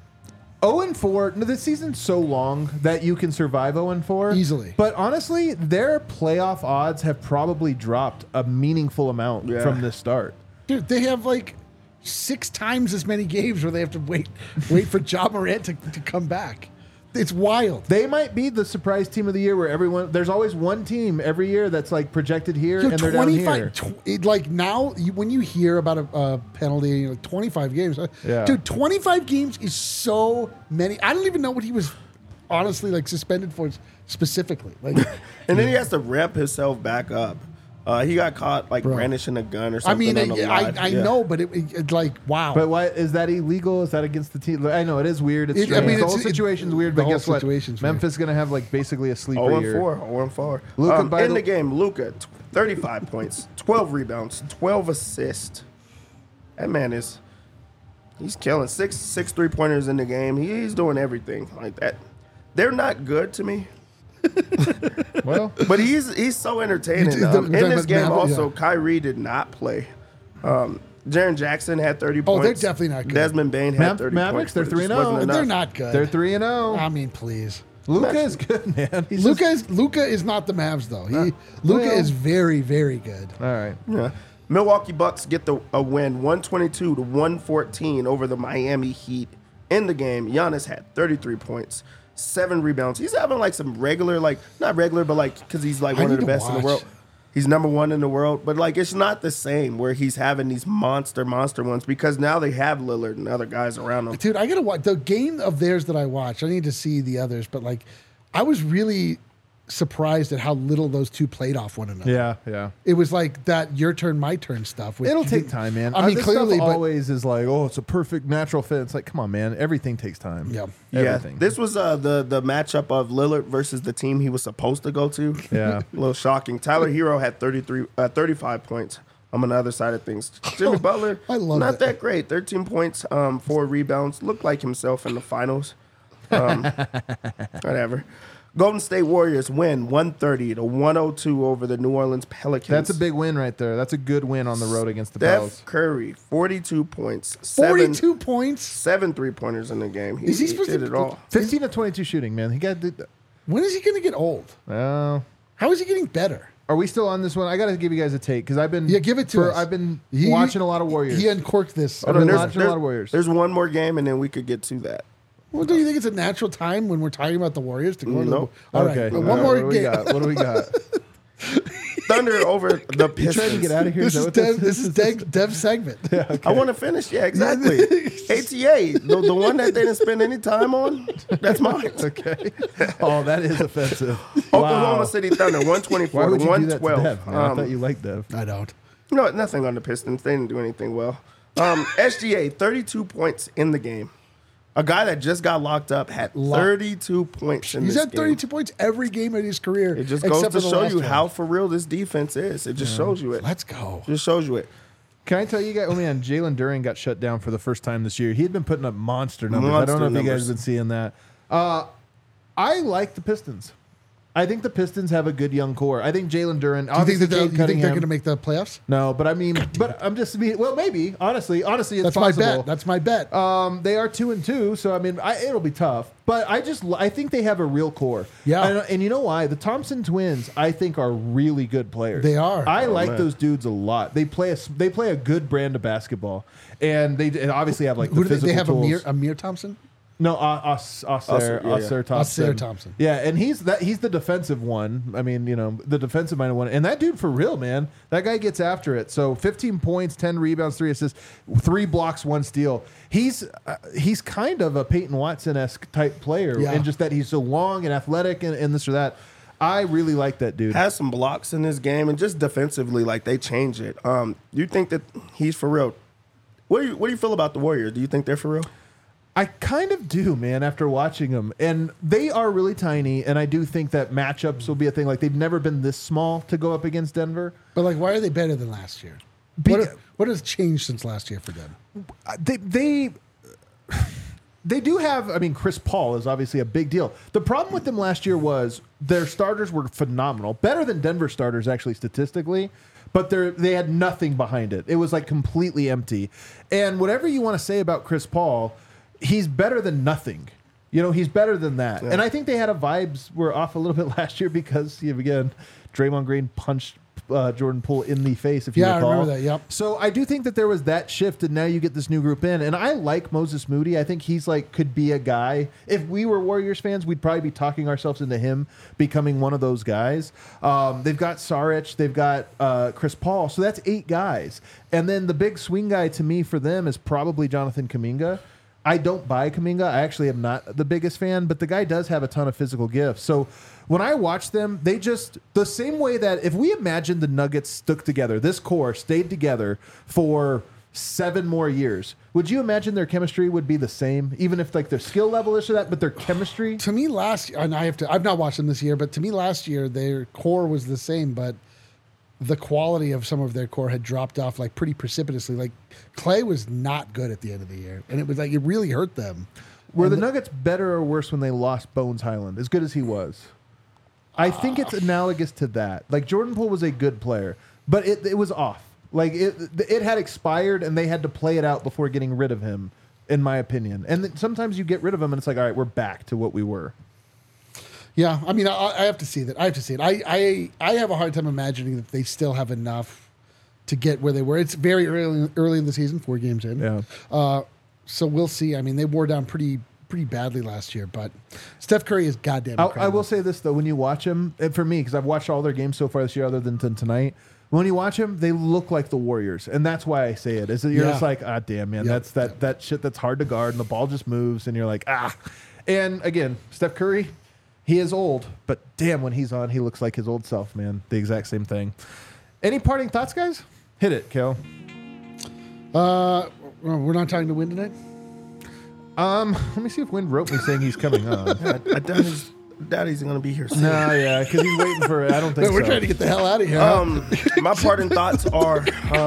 Speaker 2: 0-4. No, this season's so long that you can survive 0-4
Speaker 1: Easily.
Speaker 2: But honestly, their playoff odds have probably dropped a meaningful amount
Speaker 3: Yeah.
Speaker 2: from this start.
Speaker 1: dude, they have like 6 times as many games where they have to wait for Ja Morant to come back. It's wild.
Speaker 2: They might be the surprise team of the year, where there's always one team every year that's like projected here,
Speaker 1: Yo,
Speaker 2: and they're down here.
Speaker 1: Like now, when you hear about a penalty, like 25 games,
Speaker 2: Yeah.
Speaker 1: dude, 25 games is so many. I don't even know what he was honestly like suspended for specifically. Like,
Speaker 3: And then he has to ramp himself back up. He got caught like
Speaker 1: Bro.
Speaker 3: brandishing a gun or
Speaker 1: I
Speaker 3: something.
Speaker 1: mean,
Speaker 3: on the live.
Speaker 1: I
Speaker 3: Yeah.
Speaker 1: know, but it like wow.
Speaker 2: But why is that illegal? Is that against the team? I know it is weird. It's
Speaker 1: I
Speaker 2: strange.
Speaker 1: mean,
Speaker 2: the
Speaker 1: it's-
Speaker 2: whole
Speaker 1: it-
Speaker 2: situation's weird.
Speaker 1: the
Speaker 2: But
Speaker 1: whole
Speaker 2: guess what?
Speaker 1: situation's weird.
Speaker 2: Memphis gonna have like basically a sleeper
Speaker 3: 0-4,
Speaker 2: year.
Speaker 3: 0-4.
Speaker 2: Luka, by
Speaker 3: in
Speaker 2: the-
Speaker 3: the game, Luka, 35 points, 12 rebounds, 12 assists. That man is. He's killing six 3-pointers in the game. He's doing everything like that. They're not good to me.
Speaker 2: Well,
Speaker 3: But he's so entertaining. In this game, also, Kyrie did not play. Jaren Jackson had 30 points.
Speaker 1: Oh, they're definitely not good.
Speaker 3: Desmond Bain had 30
Speaker 2: Mavericks,
Speaker 3: points.
Speaker 2: they're
Speaker 3: but it just
Speaker 2: 3-0.
Speaker 3: wasn't
Speaker 1: They're
Speaker 3: enough.
Speaker 1: not good.
Speaker 2: they're 3-0.
Speaker 1: I mean, please.
Speaker 2: Luka is good, man.
Speaker 1: Luka is not the Mavs though. Luka is very, very good.
Speaker 2: All right.
Speaker 3: Yeah. Milwaukee Bucks get a win, 122-114 over the Miami Heat in the game. Giannis had 33 points, 7 rebounds. He's having like some regular, like not regular, but like because he's like
Speaker 1: I
Speaker 3: one of
Speaker 1: need
Speaker 3: the
Speaker 1: to
Speaker 3: best in the
Speaker 1: watch.
Speaker 3: world. He's number 1 in the world, but like it's not the same where he's having these monster ones because now they have Lillard and other guys around him.
Speaker 1: Dude, I gotta watch the game of theirs that I watched. I need to see the others, but like, I was really surprised at how little those two played off one another.
Speaker 2: Yeah.
Speaker 1: It was like that your turn, my turn stuff. which
Speaker 2: It'll
Speaker 1: you
Speaker 2: take
Speaker 1: didn't-
Speaker 2: time, man.
Speaker 1: I mean,
Speaker 2: this
Speaker 1: clearly,
Speaker 2: stuff
Speaker 1: but
Speaker 2: always is like, oh, it's a perfect natural fit. It's like, come on, man. Everything takes time.
Speaker 1: Yeah.
Speaker 2: Everything.
Speaker 3: Yeah, this was the matchup of Lillard versus the team he was supposed to go to.
Speaker 2: Yeah.
Speaker 3: A little shocking. Tyler Hero had 35 points on the other side of things. Jimmy Butler,
Speaker 1: I love
Speaker 3: not
Speaker 1: it.
Speaker 3: that great. 13 points, 4 rebounds. Looked like himself in the finals. Whatever. Golden State Warriors win 130-102 over the New Orleans Pelicans.
Speaker 2: That's a big win right there. That's a good win on the road against the
Speaker 3: Steph
Speaker 2: Pels.
Speaker 3: Curry, 42 points.
Speaker 1: 42 points.
Speaker 3: 7 3-pointers in the game. He,
Speaker 1: Is he supposed
Speaker 3: did
Speaker 1: to-
Speaker 3: it all.
Speaker 2: 15 of 22 shooting, man. He got.
Speaker 1: When is he gonna get old?
Speaker 2: Well,
Speaker 1: How is he getting better?
Speaker 2: are we still on this one? I got to give you guys a take because I've been.
Speaker 1: Yeah, give it to us.
Speaker 2: I've been
Speaker 1: He-
Speaker 2: watching a lot of Warriors.
Speaker 1: He uncorked this.
Speaker 2: I've been
Speaker 3: There's-
Speaker 2: watching a lot of Warriors.
Speaker 3: There's one more game, and then we could get to that.
Speaker 1: Well, do you think it's a natural time when we're talking about the Warriors to go to
Speaker 3: Nope.
Speaker 1: the? All right,
Speaker 2: Okay.
Speaker 1: well, one more
Speaker 2: What do we
Speaker 1: game.
Speaker 2: got? What do we got?
Speaker 3: Thunder over the
Speaker 2: You
Speaker 3: Pistons.
Speaker 2: trying to get out of here?
Speaker 1: This
Speaker 2: Is
Speaker 1: is
Speaker 2: that what
Speaker 1: Dev. This is Dev's segment.
Speaker 3: I want to finish. Yeah, exactly. ATA, the one that they didn't spend any time on, that's mine.
Speaker 2: Okay. Oh, that is offensive.
Speaker 3: Oklahoma City Thunder,
Speaker 2: Why
Speaker 3: 124
Speaker 2: would
Speaker 3: to
Speaker 2: you do that to
Speaker 3: 112.
Speaker 2: Dev, man? I thought you liked Dev.
Speaker 1: I don't.
Speaker 3: No, nothing on the Pistons. They didn't do anything well. SGA, 32 points in the game. A guy that just got locked up had 32 points in
Speaker 1: He's
Speaker 3: this
Speaker 1: had
Speaker 3: game.
Speaker 1: 32 points every game in his career.
Speaker 3: It just
Speaker 1: except
Speaker 3: goes to
Speaker 1: for the
Speaker 3: show
Speaker 1: last
Speaker 3: you
Speaker 1: one.
Speaker 3: how for real this defense is. It just shows you it.
Speaker 1: Let's go.
Speaker 3: Just shows you it.
Speaker 2: Can I tell you guys? Oh man, Jalen Duren got shut down for the first time this year. He had been putting up monster numbers. I don't know if you guys have been seeing that. I like the Pistons. I think the Pistons have a good young core. I think Jalen Duren.
Speaker 1: Do you think, that
Speaker 2: Cade
Speaker 1: you think they're
Speaker 2: Cunningham-
Speaker 1: going to make the playoffs?
Speaker 2: No, but I mean, but I'm just well, maybe honestly, it's
Speaker 1: That's
Speaker 2: possible.
Speaker 1: my bet. That's my bet.
Speaker 2: They are 2-2, so I mean, it'll be tough. But I think they have a real core.
Speaker 1: Yeah.
Speaker 2: and you know why? The Thompson twins, I think, are really good players.
Speaker 1: They are.
Speaker 2: I like
Speaker 3: man.
Speaker 2: those dudes a lot. They play a good brand of basketball, and they obviously have like
Speaker 1: Who
Speaker 2: the
Speaker 1: do they
Speaker 2: physical
Speaker 1: have?
Speaker 2: tools.
Speaker 1: Amir Thompson?
Speaker 2: No, Osir Thompson.
Speaker 1: Osir Thompson.
Speaker 2: Yeah, and he's the defensive one. I mean, the defensive minded one. And that dude, for real, man, that guy gets after it. So 15 points, 10 rebounds, 3 assists, 3 blocks, 1 steal. He's kind of a Peyton Watson-esque type player,
Speaker 1: Yeah.
Speaker 2: and just that he's so long and athletic and this or that. I really like that dude.
Speaker 3: Has some blocks in this game, and just defensively, like they change it. You think that he's for real? What do you feel about the Warriors? Do you think they're for real?
Speaker 2: I kind of do, man, after watching them. And they are really tiny, and I do think that matchups will be a thing. Like, they've never been this small to go up against Denver.
Speaker 1: But like, why are they better than last year? What has changed since last year for them?
Speaker 2: They do have, I mean, Chris Paul is obviously a big deal. The problem with them last year was their starters were phenomenal. Better than Denver starters, actually, statistically. But they had nothing behind it. It was like completely empty. And whatever you want to say about Chris Paul, he's better than nothing. He's better than that.
Speaker 3: Yeah.
Speaker 2: And I think they had vibes were off a little bit last year because, again, Draymond Green punched Jordan Poole in the face, if you
Speaker 1: Yeah, I
Speaker 2: recall.
Speaker 1: remember that, yep.
Speaker 2: So I do think that there was that shift, and now you get this new group in. And I like Moses Moody. I think he's could be a guy. If we were Warriors fans, we'd probably be talking ourselves into him becoming one of those guys. They've got Saric. They've got Chris Paul. So that's 8 guys. And then the big swing guy to me for them is probably Jonathan Kuminga. I don't buy Kuminga. I actually am not the biggest fan, but the guy does have a ton of physical gifts. So when I watch them, they just, the same way that if we imagine the Nuggets stuck together, this core stayed together for 7 more years, would you imagine their chemistry would be the same? Even if their skill level is to that, but their chemistry?
Speaker 1: To me, last year, and I've not watched them this year, but to me last year, their core was the same. But the quality of some of their core had dropped off like pretty precipitously. Like Clay was not good at the end of the year, and it was like it really hurt them.
Speaker 2: Were the Nuggets better or worse when they lost Bones Highland, as good as he was? I think it's analogous to that. Like Jordan Poole was a good player, but it was off. Like it had expired, and they had to play it out before getting rid of him, in my opinion. And then sometimes you get rid of him, and it's like, all right, we're back to what we were.
Speaker 1: Yeah, I mean, I have to see that. I have to see it. I have a hard time imagining that they still have enough to get where they were. It's very early in the season, 4 games in.
Speaker 2: Yeah.
Speaker 1: So we'll see. I mean, they wore down pretty badly last year, but Steph Curry is goddamn incredible.
Speaker 2: I will say this, though. When you watch him, and for me, because I've watched all their games so far this year other than tonight, when you watch them, they look like the Warriors. And that's why I say it. Is that you're just like, ah, damn, man, that's that shit that's hard to guard, and the ball just moves, and you're like, ah. And again, Steph Curry, he is old, but damn, when he's on, he looks like his old self, man. The exact same thing. Any parting thoughts, guys? Hit it, Kel.
Speaker 1: We're not talking to Win tonight?
Speaker 2: Let me see if Win wrote me saying he's coming on.
Speaker 3: I doubt Daddy's going to be here soon.
Speaker 2: No, yeah, because he's waiting for it. I don't think so.
Speaker 1: We're trying to get the hell out of here.
Speaker 3: My parting thoughts are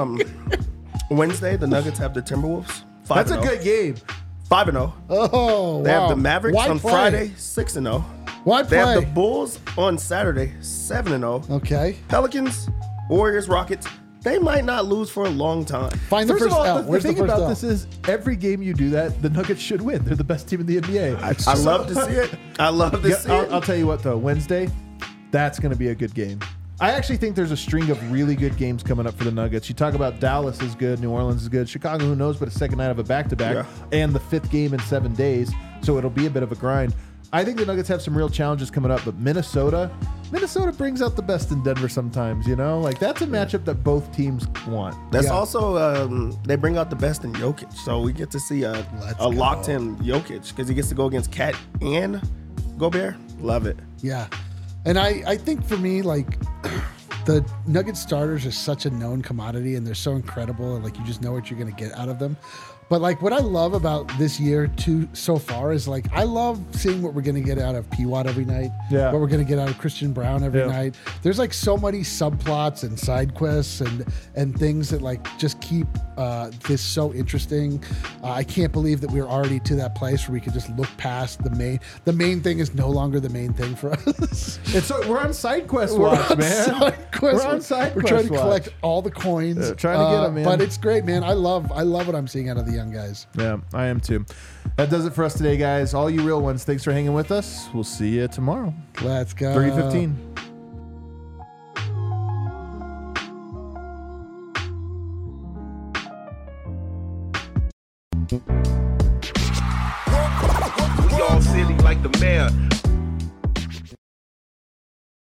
Speaker 3: Wednesday, the Nuggets have the Timberwolves. 5-0.
Speaker 2: That's a good game.
Speaker 3: 5-0.
Speaker 1: Oh,
Speaker 3: They
Speaker 1: wow.
Speaker 3: have the Mavericks
Speaker 1: Why
Speaker 3: on
Speaker 1: play?
Speaker 3: Friday, 6-0.
Speaker 1: Why
Speaker 3: They have
Speaker 1: play?
Speaker 3: the Bulls on Saturday, 7-0.
Speaker 1: Okay.
Speaker 3: Pelicans, Warriors, Rockets. They might not lose for a long time.
Speaker 1: Find the
Speaker 2: First
Speaker 1: first
Speaker 2: of all,
Speaker 1: L.
Speaker 2: the
Speaker 1: Where's the
Speaker 2: thing
Speaker 1: first
Speaker 2: about
Speaker 1: L?
Speaker 2: this is every game you do that, the Nuggets should win. They're the best team in the NBA.
Speaker 3: I love to see it. I love to see it.
Speaker 2: I'll tell you what, though. Wednesday, that's going to be a good game. I actually think there's a string of really good games coming up for the Nuggets. You talk about Dallas is good, New Orleans is good, Chicago, who knows, but a second night of a back-to-back, and the 5th game in 7 days, so it'll be a bit of a grind. I think the Nuggets have some real challenges coming up, but Minnesota brings out the best in Denver sometimes, you know? Like, that's a matchup that both teams want.
Speaker 3: That's also, they bring out the best in Jokic. So we get to see a locked-in Jokic because he gets to go against Cat and Gobert. Love it.
Speaker 1: Yeah. And I think for me, like, the Nuggets starters are such a known commodity, and they're so incredible, and, like, you just know what you're going to get out of them. But, like, what I love about this year, too, so far is, like, I love seeing what we're going to get out of P-Watt every night, what we're going to get out of Christian Brown every night. There's, like, so many subplots and side quests and things that, like, just keep this so interesting. I can't believe that we're already to that place where we can just look past the main. The main thing is no longer the main thing for us.
Speaker 2: We're on side quest watch, man. We're on side quest
Speaker 1: We're trying to
Speaker 2: watch.
Speaker 1: collect all the coins.
Speaker 2: Trying to get them, man.
Speaker 1: But it's great, man. I love what I'm seeing out of the young guys.
Speaker 2: Yeah, I am too. That does it for us today, guys. All you real ones, thanks for hanging with us. We'll see you tomorrow.
Speaker 1: Let's go.
Speaker 2: 3:15.
Speaker 7: We all silly like the mayor.